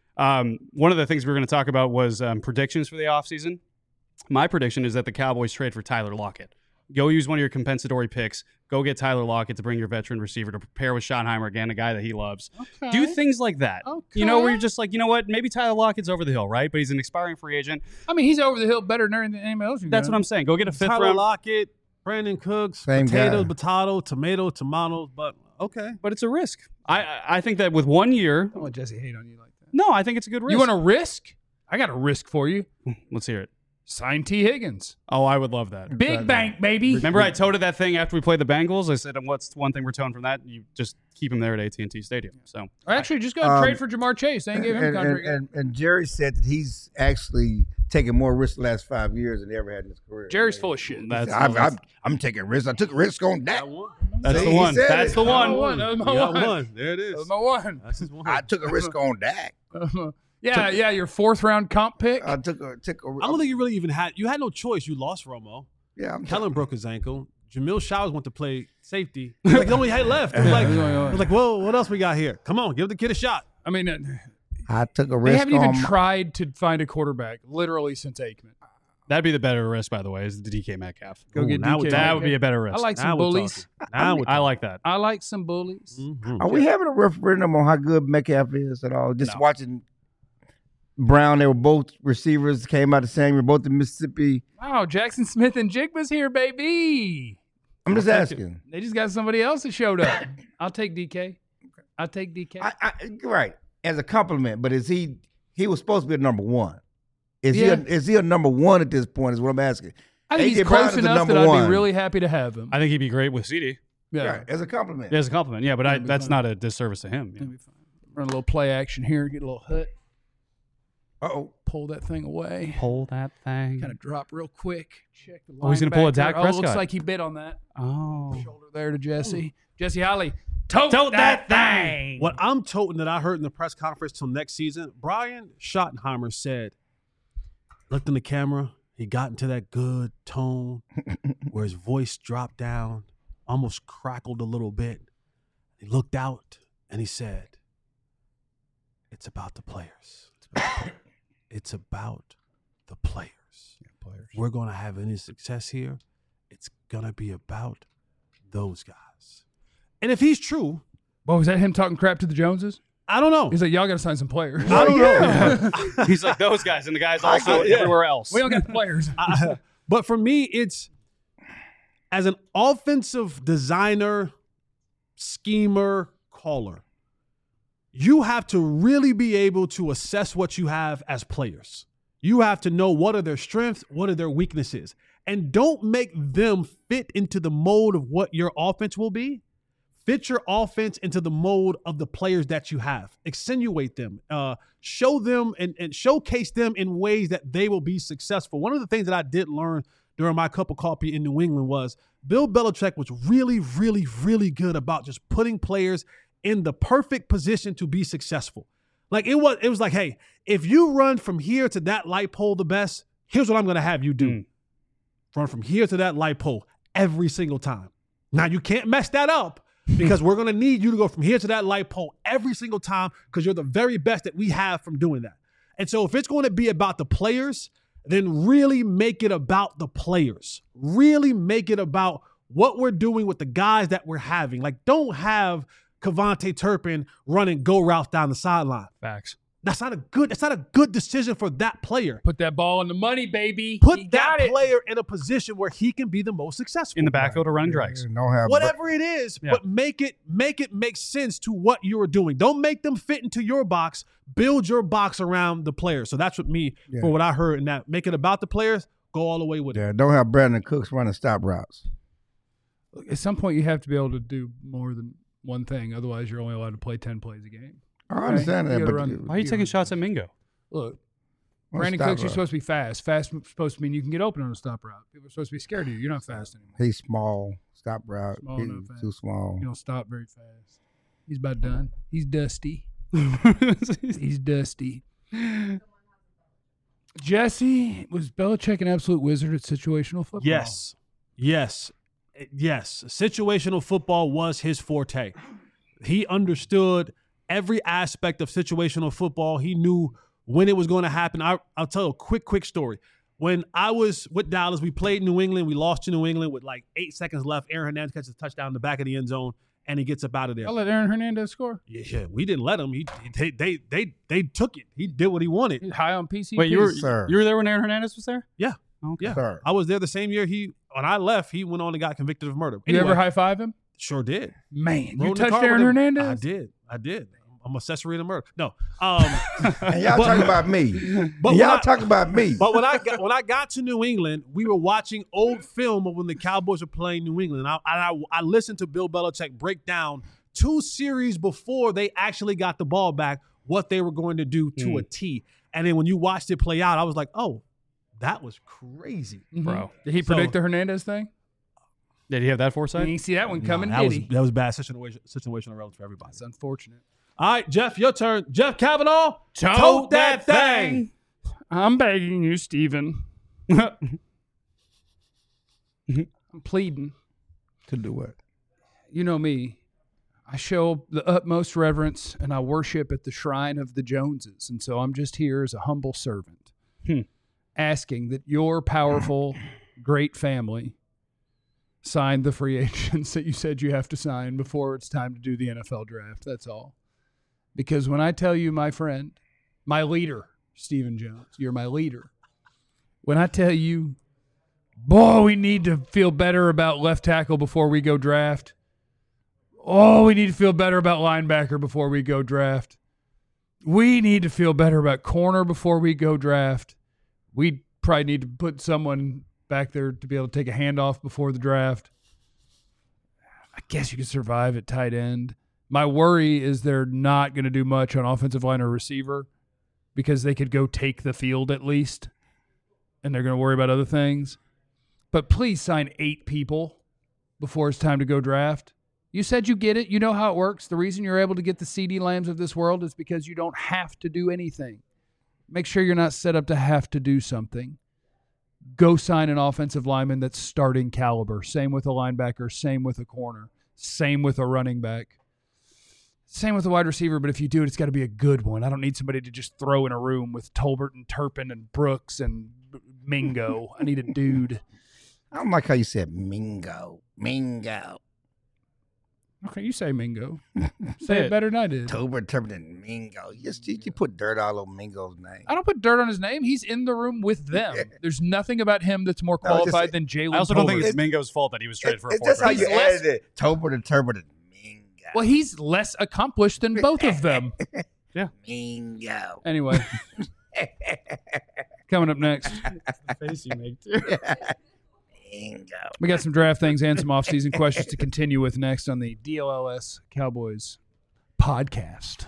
One of the things we were going to talk about was predictions for the offseason. My prediction is that the Cowboys trade for Tyler Lockett. Go use one of your compensatory picks. Go get Tyler Lockett to bring your veteran receiver to prepare with Schottenheimer again, a guy that he loves. Okay. Do things like that. Okay. You know, where you're just like, you know what? Maybe Tyler Lockett's over the hill, right? But he's an expiring free agent. I mean, he's over the hill better than anyone else. That's what I'm saying. Go get a fifth Tyler round. Lockett, Brandon Cooks, Same potatoes, guy. potato, tomato, tomatoes. But okay. But it's a risk. I think that with 1 year, Don't let Jesse hate on you like that. no, I think it's a good risk. You want a risk? I got a risk for you. Let's hear it. Sign T. Higgins. Oh, I would love that. Big bank, baby. Remember I toted that thing after we played the Bengals? I said, what's one thing we're toting from that? You just keep him there at AT&T Stadium. So Or actually, just go and trade for Jamar Chase. They ain't give him a contract. And Jerry said that he's actually taken more risks the last 5 years than he ever had in his career. Jerry's full of shit. I'm taking risks. I took a risk on that. that's See, the he one. said That's it. the one. That was my You got one. one. There it That was is. my one. That's his one. I took a risk on Dak. Yeah, your fourth round comp pick. I took a. I don't think you really even had. You had no choice. You lost Romo. Yeah, I'm Kellen broke his ankle. Jamil Showers went to play safety. It was like the only had left. It was like, whoa, what else we got here? Come on, give the kid a shot. I mean, I took a they risk. haven't even on tried to find a quarterback literally since Aikman. That'd be the better risk, by the way, is the DK Metcalf. Go Ooh, get now DK. we're That would be a better risk. I like Now some we're bullies. talking. Now we're I like that. I like some bullies. talking. Are we having a referendum on how good Metcalf is at all? Just No. watching Brown, they were both receivers, came out the same. We're both in Mississippi. Wow, Jackson Smith and Jigba's here, baby. I'm just asking. They just got somebody else that showed up. I'll take DK. I'll take DK. Right, as a compliment, but is he was supposed to be a number one. Is Yeah. he a number one at this point is what I'm asking. I think AJ he's Brown close is the enough that number I'd be one. really happy to have him. I think he'd be great with CD. Yeah. Right, as a compliment. As a compliment. Yeah, but That'd be that's fine. not a disservice to him. That'd be fine. Run a little play action here, get a little hut, Uh-oh. pull that thing away, Pull that thing. kind of drop real quick. Check the Oh, he's gonna pull a linebacker. Dak Oh, looks Prescott. like he bit on that. Oh. Shoulder there to Jesse. Jesse Holly, tote that thing. What I'm toting that I heard in the press conference till next season, Brian Schottenheimer said, looked in the camera, he got into that good tone where his voice dropped down. almost crackled a little bit. He looked out and he said, "It's about the players. It's about the players. If we're going to have any success here, it's going to be about those guys." And if he's true, Well, was that him talking crap to the Joneses? I don't know. He's like, y'all got to sign some players. I don't know. He's like those guys, and the guys also everywhere else. We don't got players. But for me, it's as an offensive designer, schemer, caller, you have to really be able to assess what you have as players. You have to know what are their strengths, what are their weaknesses, and don't make them fit into the mold of what your offense will be. Fit your offense into the mold of the players that you have. Accentuate them, show them and showcase them in ways that they will be successful. One of the things that I did learn during my cup of coffee in New England was Bill Belichick was really, really, really good about just putting players in the perfect position to be successful. Like it was like, hey, if you run from here to that light pole the best, here's what I'm going to have you do. Run from here to that light pole every single time. Now, you can't mess that up because we're going to need you to go from here to that light pole every single time because you're the very best that we have from doing that. And so if it's going to be about the players, then really make it about the players. Really make it about what we're doing with the guys that we're having. Like, don't have Kevontae Turpin running go routes down the sideline. Facts. That's not a good decision for that player. Put that ball in the money, baby. Put You that got it. player in a position where he can be the most successful. In the backfield or running drags. Whatever it is, Yeah. but make it make sense to what you are doing. Don't make them fit into your box. Build your box around the players. So that's what for what I heard in that. Make it about the players. Go all the way with it. Yeah, don't have Brandon Cooks running stop routes. At some point, you have to be able to do more than one thing. Otherwise, you're only allowed to play 10 plays a game. I understand You that, gotta but run- Why are you taking shots at Mingo? Look, Well, Brandon stop Cooks, you're route. supposed to be fast. Fast is supposed to mean you can get open on a stop route. People are supposed to be scared of you. You're not fast anymore. He's small. Stop route. Small, He's not fast. too small. You don't stop very fast. He's about done. He's dusty. He's dusty. Jesse, was Belichick an absolute wizard at situational football? Yes. Situational football was his forte. He understood every aspect of situational football. He knew when it was going to happen. I'll tell a quick story. When I was with Dallas, we played New England. We lost to New England with like 8 seconds left. Aaron Hernandez catches a touchdown in the back of the end zone, and he gets up out of there. I'll let Aaron Hernandez score. Yeah, we didn't let him. They took it. He did what he wanted. He's high on PCP. Wait, you were Sir. there when Aaron Hernandez was there? Yeah. Okay. Yeah, Sir. I was there the same year when I left. He went on and got convicted of murder. You Anyway, ever high five him? Sure did. Man, Rode you in the touched car Aaron with him. Hernandez? I did. I'm accessory to murder. No. And y'all talking about me. But Y'all when I- talking about me. But when I got to New England, we were watching old film of when the Cowboys were playing New England. And I listened to Bill Belichick break down 2 series before they actually got the ball back, what they were going to do to a T. And then when you watched it play out, I was like, oh, that was crazy. Bro. Did he predict the Hernandez thing? Did he have that foresight? You didn't see that one coming, that did was he? that was bad situational relevance for everybody. It's unfortunate. All right, Jeff, your turn. Jeff Kavanaugh, Tote that thing. I'm begging you, Steven. I'm pleading. To do what? You know me. I show the utmost reverence and I worship at the shrine of the Joneses. And so I'm just here as a humble servant, asking that your powerful, great family sign the free agents that you said you have to sign before it's time to do the NFL draft. That's all. Because when I tell you, my friend, my leader, Stephen Jones, you're my leader. When I tell you, boy, we need to feel better about left tackle before we go draft. Oh, we need to feel better about linebacker before we go draft. We need to feel better about corner before we go draft. We probably need to put someone back there to be able to take a handoff before the draft. I guess you could survive at tight end. My worry is they're not going to do much on offensive line or receiver because they could go take the field at least, and they're going to worry about other things. But please sign 8 people before it's time to go draft. You said you get it. You know how it works. The reason you're able to get the CeeDee Lambs of this world is because you don't have to do anything. Make sure you're not set up to have to do something. go sign an offensive lineman that's starting caliber. Same with a linebacker. Same with a corner. Same with a running back. Same with a wide receiver, but if you do it, it's got to be a good one. I don't need somebody to just throw in a room with Tolbert and Turpin and Brooks and Mingo. I need a dude. I don't like how you said Mingo. Mingo. Okay, you say Mingo. Say it better than I did. Tolbert, Turpin, and Mingo. You put dirt all over Mingo's name. I don't put dirt on his name. He's in the room with them. There's nothing about him that's more qualified than Jalen. I also don't think it's Mingo's fault that he was traded for a fourth That's how round. you added it. Tolbert and Turpin and Mingo. Well, he's less accomplished than both of them. Yeah. Mingo. Anyway. Coming up next. The face you make, too. Bingo. We got some draft things and some off-season questions to continue with next on the DLLS Cowboys podcast.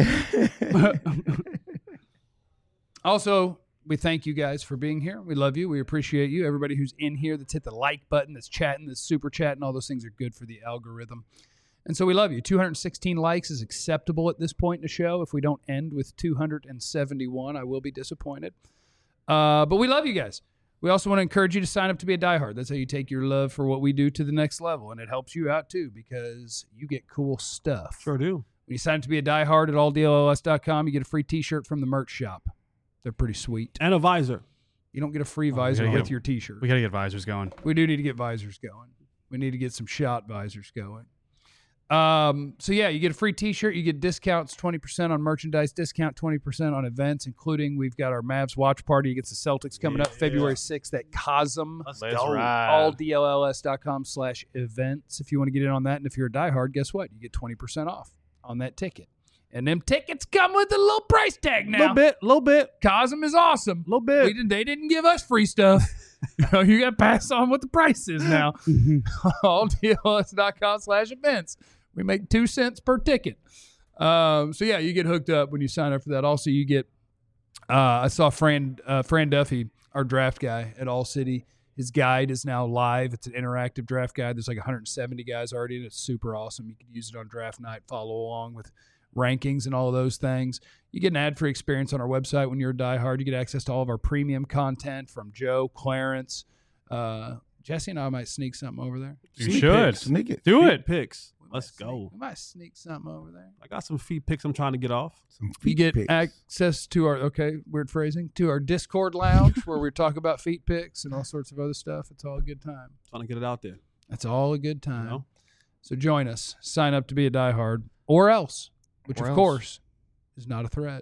Also, we thank you guys for being here. We love you. We appreciate you. Everybody who's in here that's hit the like button, that's chatting, that's super chatting, all those things are good for the algorithm. And so we love you. 216 likes is acceptable at this point in the show. If we don't end with 271, I will be disappointed. But we love you guys. We also want to encourage you to sign up to be a diehard. That's how you take your love for what we do to the next level. And it helps you out, too, because you get cool stuff. Sure do. When you sign up to be a diehard at alldlls.com, you get a free T-shirt from the merch shop. They're pretty sweet. And a visor. You don't get a free visor with your T-shirt. We got to get visors going. We do need to get visors going. We need to get some shot visors going. So yeah, you get a free T-shirt. You get discounts, 20% on merchandise, discount 20% on events, including we've got our Mavs watch party against the Celtics coming up February 6th at Cosm. Let's Let's go. ride. alldlls.com/events. If you want to get in on that, and if you're a diehard, guess what? You get 20% off on that ticket. And them tickets come with a little price tag now. Little bit. Cosm is awesome. Little bit. They didn't give us free stuff. You got to pass on what the price is now. alldlls.com/events. We make 2 cents per ticket. So yeah, you get hooked up when you sign up for that. Also, you get. I saw Fran Duffy, our draft guy at All City. His guide is now live. It's an interactive draft guide. There's like 170 guys already, and it's super awesome. You can use it on draft night. Follow along with rankings and all of those things. You get an ad-free experience on our website when you're a diehard. You get access to all of our premium content from Joe, Clarence, Jesse, and I might sneak something over there. You should. Sneak it. Do Feet it. Picks. Let's go. We might sneak something over there. I got some feet picks I'm trying to get off. Some You feet get pics. access to our, weird phrasing, to our Discord lounge where we talk about feet picks and all sorts of other stuff. It's all a good time. Trying to get it out there. It's all a good time. You know? So join us. Sign up to be a diehard or else, which Or of else. course is not a threat.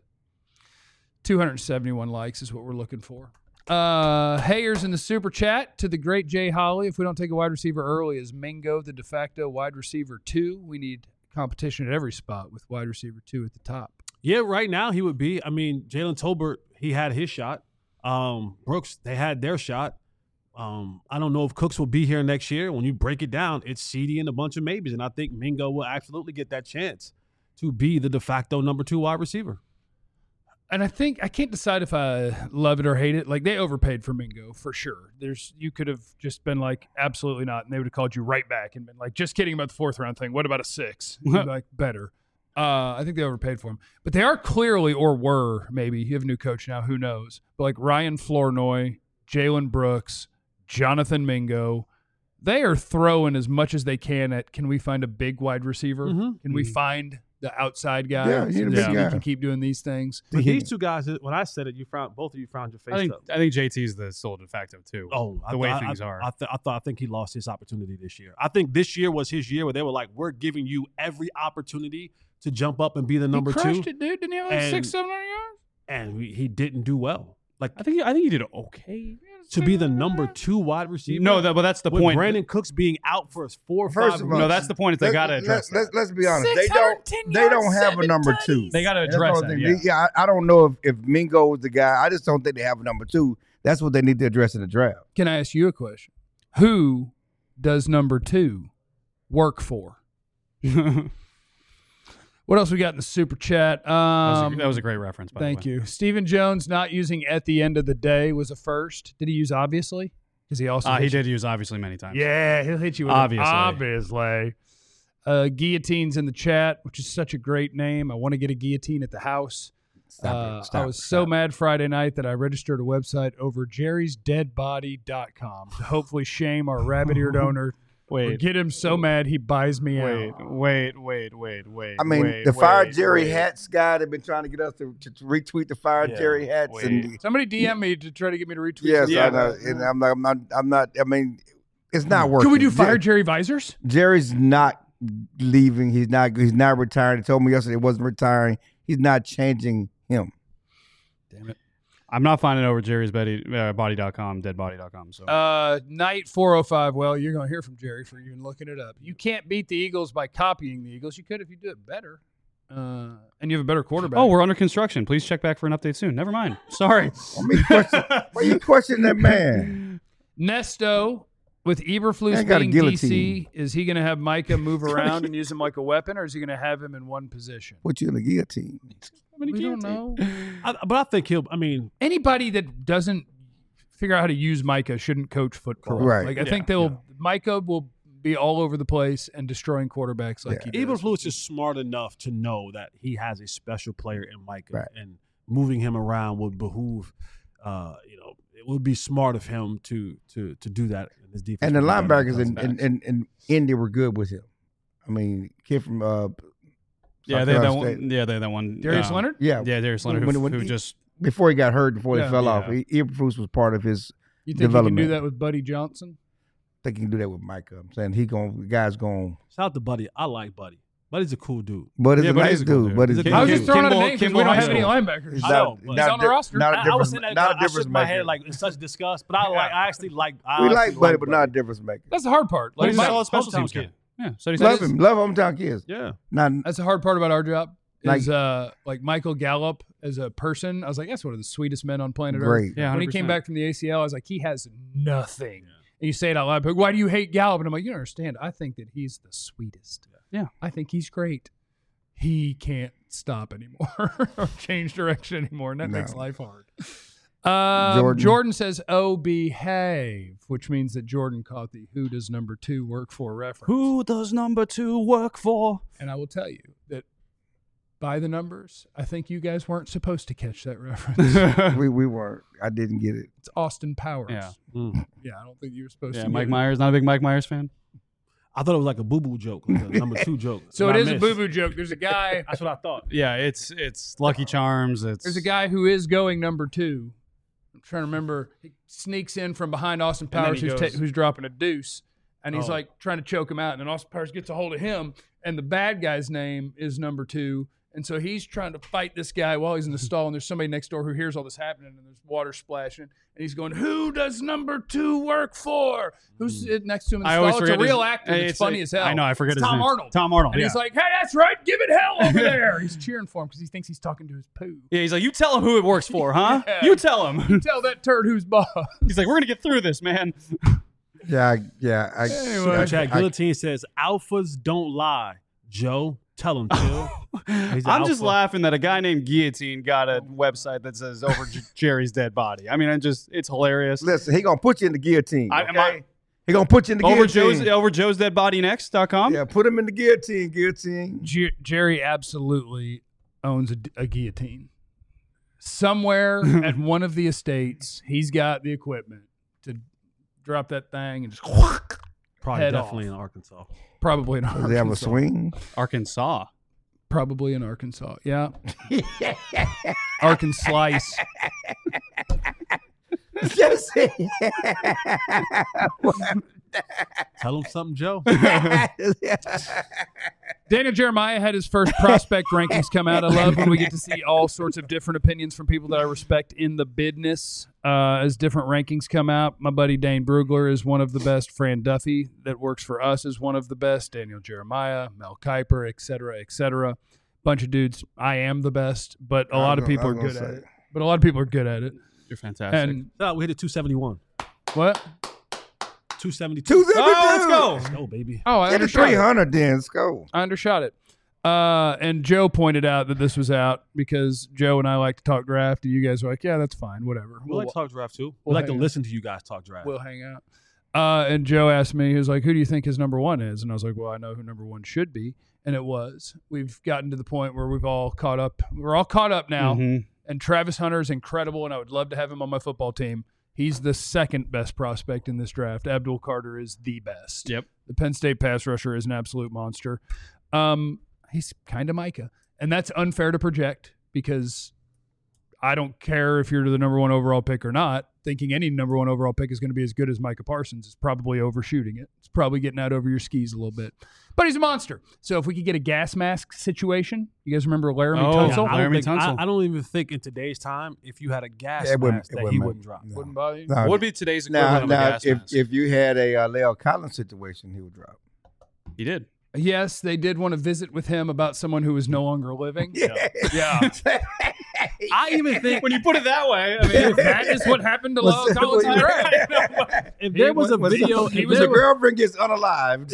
271 likes is what we're looking for. Hayers in the super chat to the great Jay Holly. If we don't take a wide receiver early, is Mingo the de facto wide receiver 2? We need competition at every spot with wide receiver 2 at the top. Yeah, right now he would be. I mean, Jalen Tolbert, he had his shot. Brooks, they had their shot. I don't know if Cooks will be here next year. When you break it down, it's CD and a bunch of maybes. And I think Mingo will absolutely get that chance to be the de facto number 2 wide receiver. And I think I can't decide if I love it or hate it. Like, they overpaid for Mingo for sure. You could have just been like, absolutely not, and they would have called you right back and been like, just kidding about the 4th round thing. What about a 6? You'd be like, better. I think they overpaid for him, but they are clearly, or were maybe. You have a new coach now, who knows? But like Ryan Flournoy, Jalen Brooks, Jonathan Mingo, they are throwing as much as they can at. Can we find a big wide receiver? Mhm. Can we find the outside guy? Yeah, you need a big so we guy. can keep doing these things. But these two guys, when I said it, both of you frowned your face I think up. JT's the sole de facto too. Oh, the way things are. I think he lost his opportunity this year. I think this year was his year where they were like, we're giving you every opportunity to jump up and be the number he 2. crushed it, dude. Didn't he have like And- 600-700 yards? And he didn't do well. Like, I think he did okay. to be the number 2 wide receiver. No, but that's the with point. Brandon Cooks being out for 4 or 5 First of all, No, that's the point. Is they got to address that. Let's be honest. They 610 don't yards, have a 7 number tutties. 2. They got to That's the address only that. thing. Yeah. I don't know if Mingo is the guy. I just don't think they have a number 2. That's what they need to address in the draft. Can I ask you a question? Who does number 2 work for? What else we got in the super chat? That was a great reference. By Thank the way. you. Stephen Jones not using at the end of the day was a first. Did he use obviously? Because he also He hit you- did use obviously many times. Yeah, he'll hit you with Obviously. obviously. Guillotine's in the chat, which is such a great name. I want to get a guillotine at the house. Stop I was so mad Friday night that I registered a website over jerrysdeadbody.com to hopefully shame our rabbit-eared owner. Or get him so mad he buys me out. Wait. I mean, the Fire Jerry hats guy, they've been trying to get us to retweet the Fire Jerry hats. And Somebody DM me to try to get me to retweet. yes, something. I know. And I'm not. I mean, it's not working. Can we do Fire Jerry visors? Jerry's not leaving. He's not retiring. He told me yesterday he wasn't retiring. He's not changing him. Damn it. I'm not finding it over jerrysbody.com, deadbody.com. So Night 405. Well, you're going to hear from Jerry for even looking it up. You can't beat the Eagles by copying the Eagles. You could if you do it better. And you have a better quarterback. we're under construction. Please check back for an update soon. Never mind. Sorry. Why you question that man? Nesto with Eberflus Ain't got a being guillotine. DC, is he going to have Micah move around and use him like a weapon, or is he going to have him in one position? Put you in the guillotine. We don't know. But I think he'll. I mean, Anybody that doesn't figure out how to use Micah shouldn't coach football. Right. Like I think Micah will be all over the place and destroying quarterbacks like he does. Eberflus is smart enough to know that he has a special player in Micah, Right. and moving him around would behoove. It would be smart of him to do that in his defense. And the linebackers in Indy were good with him. I mean, kid from Yeah, South they had that Carolina State. one. Yeah, they had that one. Darius Leonard? Yeah, Darius Leonard, who just before he got hurt, before Yeah. he fell off, Yeah. Eberflus was part of his. You think he can development. do that with Buddy Johnson? I think he can do that with Micah. I'm saying the guy's going. Shout out to Buddy. I like Buddy. Buddy's a cool dude. But he's Yeah, a but nice he's a cool dude. dude. But he's He's a I was Kim- just throwing out a Kimball- name because we Kimball don't have High any School. linebackers. He's I not- know, but not he's on the di- roster. not a I was difference- saying that not a I shook difference my maker. head like in such disgust, but I actually like. We like Buddy, but not a difference maker. That's the hard part. But Like, he's a my- solid special hometown teams kid. guy. Yeah, so he's Love him. Love hometown kids. Yeah. Not that's the hard part about our job. Like- Is like Michael Gallup as a person. I was like, that's one of the sweetest men on planet great. Earth. Yeah, When he 100%. came back from the ACL, I was like, he has nothing. And you say it out loud, but why do you hate Gallup? And I'm like, you don't understand. I think that he's the sweetest. Yeah. I think he's great. He can't stop anymore or change direction anymore, and that No. makes life hard. Jordan. Jordan says, "Oh, behave," which means that Jordan caught the "Who does number 2 work for" reference. Who does number 2 work for? And I will tell you that by the numbers, I think you guys weren't supposed to catch that reference. we weren't. I didn't get it. It's Austin Powers. Yeah. Yeah, I don't think you were supposed Yeah, to. Mike get it. Myers. Not a big Mike Myers fan. I thought it was like a boo boo joke, like a number 2 joke. So And it I is a missed. boo boo joke. There's a guy. That's what I thought. Yeah, it's Lucky Charms. There's a guy who is going number 2. I'm trying to remember. He sneaks in from behind Austin then Powers, he goes- who's dropping a deuce, and he's Oh. like trying to choke him out. And then Austin Powers gets a hold of him, and the bad guy's name is number 2. And so he's trying to fight this guy while he's in the stall, and there's somebody next door who hears all this happening, and there's water splashing, and he's going, "Who does number 2 work for?" Who's sitting next to him in the I always stall? It's a forget real his- actor. It's it's funny like- as hell. I know, I forget It's his Tom name. Arnold. Tom Arnold, And yeah. he's like, "Hey, that's right. Give it hell over there." He's cheering for him because he thinks he's talking to his poo. Yeah, he's like, you tell him who it works for, huh? Yeah. You tell him. Tell that turd who's boss. He's like, we're gonna get through this, man. Anyway. Chad Guillotine says, "Alphas don't lie." Joe, tell him, chill. He's an I'm just alpha. laughing that a guy named Guillotine got a website that says over Jerry's dead body. I mean, it's hilarious. Listen, he gonna put you in the guillotine. I- am I- Okay? He gonna put you in the Over guillotine. Joe's dead body next.com. Yeah, put him in the guillotine. Guillotine. Jerry absolutely owns a guillotine. Somewhere at one of the estates, he's got the equipment to drop that thing and just Probably head definitely off. in Arkansas. probably in Does Arkansas. he have a swing? Arkansas. Probably in Arkansas. Yeah. Arkansas. Yes. Tell him something, Joe. Daniel Jeremiah had his first prospect rankings come out. I love when we get to see all sorts of different opinions from people that I respect in the business as different rankings come out. My buddy Dane Brugler is one of the best. Fran Duffy, that works for us, is one of the best. Daniel Jeremiah, Mel Kiper, et cetera, et cetera. Bunch of dudes. I am the best, but a lot of people are good at it. But a lot of people are good at it. You're fantastic. And We hit a 271. what? 272. 272. let's go. Let's go, baby. Oh, I Get a undershot it. 300 then. Let's go. I undershot it. And Joe pointed out that this was out because Joe and I like to talk draft, and you guys are like, yeah, that's fine, whatever. We like to talk draft too. we'll We like to hang listen to you guys talk draft. We'll hang out. And Joe asked me, he was like, who do you think his number 1 is? And I was like, well, I know who number 1 should be. and it was. We've gotten to the point where we're all caught up now. Mhm. And Travis Hunter is incredible, and I would love to have him on my football team. He's the second best prospect in this draft. Abdul Carter is the best. Yep. The Penn State pass rusher is an absolute monster. He's kind of Micah. And that's unfair to project because I don't care if you're the number one overall pick or not. Thinking any number one overall pick is going to be as good as Micah Parsons is probably overshooting it. It's probably getting out over your skis a little bit. But he's a monster. So if we could get a gas mask situation, you guys remember Laramie Tunsil? Laramie Tunsil. I don't even think in today's time, if you had a gas It wouldn't- mask, it that wouldn't he matter. wouldn't drop. No. Wouldn't bother you? No, What would be today's equivalent now, of a gas mask? if you had a Leo Collins situation, he would drop. He did. Yes, they did want to visit with him about someone who is no longer living. Yeah. I even think When you put it that way, I mean, If that is what happened to Lyle Collins in the draft. if there was a video, He if was there a was- girlfriend gets unalived.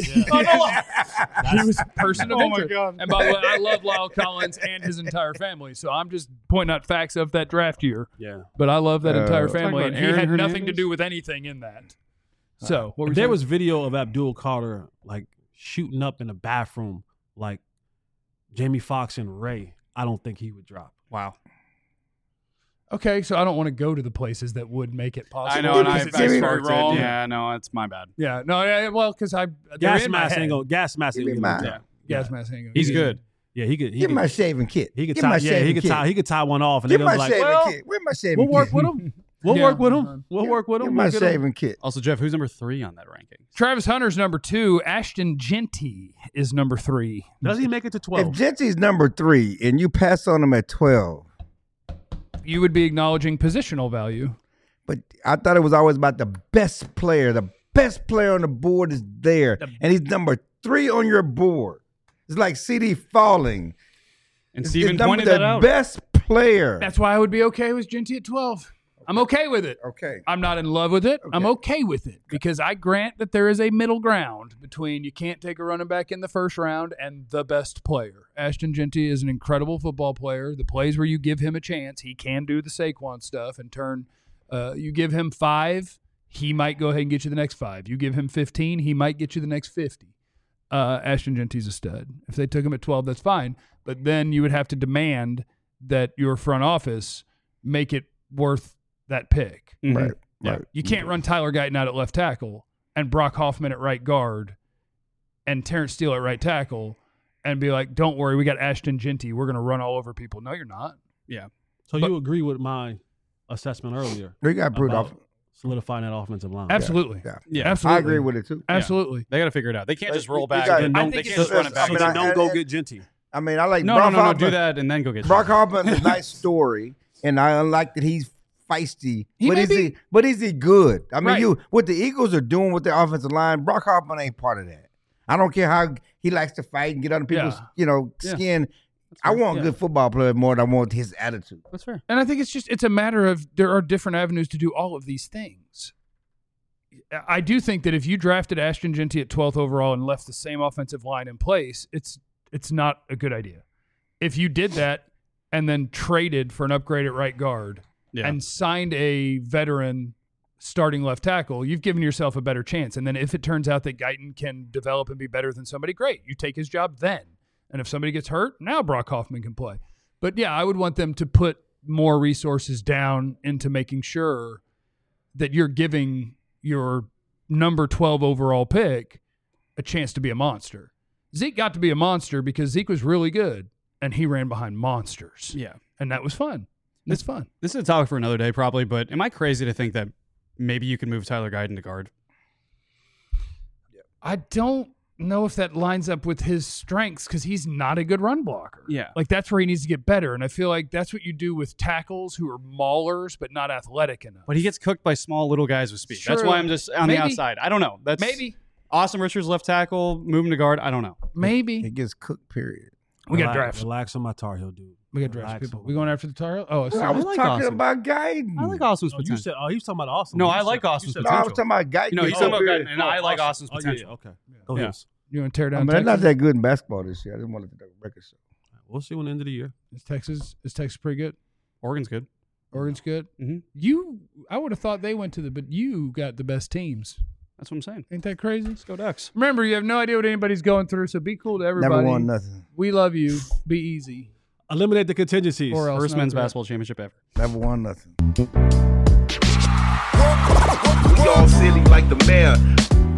He was a person of Oh, my interest. God. And by the way, I love Lyle Collins and his entire family. So I'm just pointing out facts of that draft year. yeah. But I love that entire Talking family, about and he Aaron had nothing to Hernandez? do with anything in that. So what were If you there saying? was video of Abdul Carter like shooting up in the bathroom like Jamie Foxx and Ray, I don't think he would drop. wow. Okay, so I don't want to go to the places that would make it possible. I know, and because I it seems very sparked it. wrong. Yeah, no, it's my bad. Yeah, no, yeah, well, because they're Gas in my mask head. ain't gonna. Gas mask ain't Give me gonna mine. drop. Gas mask ain't gonna- He's good. Yeah, he could. He Give could, me my shaving kit. he could Give me tie. my Yeah, shaving he could kit. tie. He could tie one off, and Give they're my gonna be shaving like, "Well, kit. Where's my shaving we'll kit? work with him. We'll Yeah. work with him. We'll work with Give him. my We'll get him." shaving kit. Also, Jeff, who's number 3 on that ranking? Travis Hunter's number 2. Ashton Genty is number 3. Does he make it to If 12? Genty's number 3 and you pass on him at 12, You would be acknowledging positional value. but I thought it was always about the best player. The best player on the board is there, and he's number 3 on your board. It's like CD falling. And It's Steven number pointed the that out. best player. That's why I would be okay with Genty at 12. I'm okay with it. Okay. I'm not in love with it. I'm Okay. okay with it because I grant that there is a middle ground between you can't take a running back in the first round and the best player. Ashton Genty is an incredible football player. The plays where you give him a chance, he can do the Saquon stuff and turn. You give him 5, he might go ahead and get you the next 5. You give him 15, he might get you the next 50. Ashton Genty's a stud. If they took him at 12, that's fine. But then you would have to demand that your front office make it worth that pick. Mhm. Right. Yeah. Right. You can't run Tyler Guyton out at left tackle and Brock Hoffman at right guard and Terrence Steele at right tackle and be like, don't worry, we got Ashton Genty. We're going to run all over people. No, you're not. Yeah. So but- you agree with my assessment earlier We got brewed about off. solidifying that offensive line? Absolutely. Yeah. Yeah. Absolutely. I agree with it too. Absolutely. They got to figure it out. They can't just roll You back. got- Then I don't, think they it's can't just run it back. I mean, so I- then don't go get Genty. I mean, I like No, Brock no, no, no. Hoffman. Do that and then go get Brock Genty. Hoffman's a nice story, and I like that he's feisty. He but may is be- he? But is he good? I mean, Right. what the Eagles are doing with their offensive line, Brock Hoffman ain't part of that. I don't care how he likes to fight and get under people's, Yeah. Yeah. skin. I want Yeah. good football players more than I want his attitude. That's fair. And I think it's a matter of there are different avenues to do all of these things. I do think that if you drafted Ashton Genty at 12th overall and left the same offensive line in place, it's not a good idea. If you did that and then traded for an upgrade at right guard Yeah. and signed a veteran starting left tackle, you've given yourself a better chance. And then if it turns out that Guyton can develop and be better than somebody, great. You take his job then. And if somebody gets hurt, now Brock Hoffman can play. But yeah, I would want them to put more resources down into making sure that you're giving your number 12 overall pick a chance to be a monster. Zeke got to be a monster because Zeke was really good and he ran behind monsters. Yeah. And that was fun. It's fun. This is a topic for another day, probably, but am I crazy to think that maybe you could move Tyler Guyton to guard? I don't know if that lines up with his strengths because he's not a good run blocker. Yeah. Like that's where he needs to get better. And I feel like that's what you do with tackles who are maulers but not athletic enough. But he gets cooked by small little guys with speed. That's True. why I'm just on Maybe. the outside. I don't know. That's Maybe. Austin Richards left tackle, move him to guard. I don't know. Maybe. It gets cooked, period. We got Relax- drafts. Relax on my Tar Heel dude. We got drafts Relax people. on We my- going after the Tar Heel? Oh, I was like talking Austin. about Guyton. I like Austin's Oh, you potential. said, he was talking about Austin. No, You I said- like you Austin's said No, I was potential. talking about Guyton. No, he's Oh, talking about period. Guyton, and I like Austin's Oh, yeah, potential. yeah, okay. Go Yeah. ahead. you want to tear down But they're not Texas? that good in basketball this year. I didn't want to let the record show. We'll see when the end of the year. Is Texas pretty good? Oregon's good. Oregon's good. Mhm. I would have thought they went to but you got the best teams. That's what I'm saying. Ain't that crazy? Let's go Ducks. Remember, you have no idea what anybody's going through, so be cool to everybody. Never won nothing. We love you. Be easy. Eliminate the contingencies. Or else First not men's good. basketball championship ever. Never won nothing. We all silly like the mayor.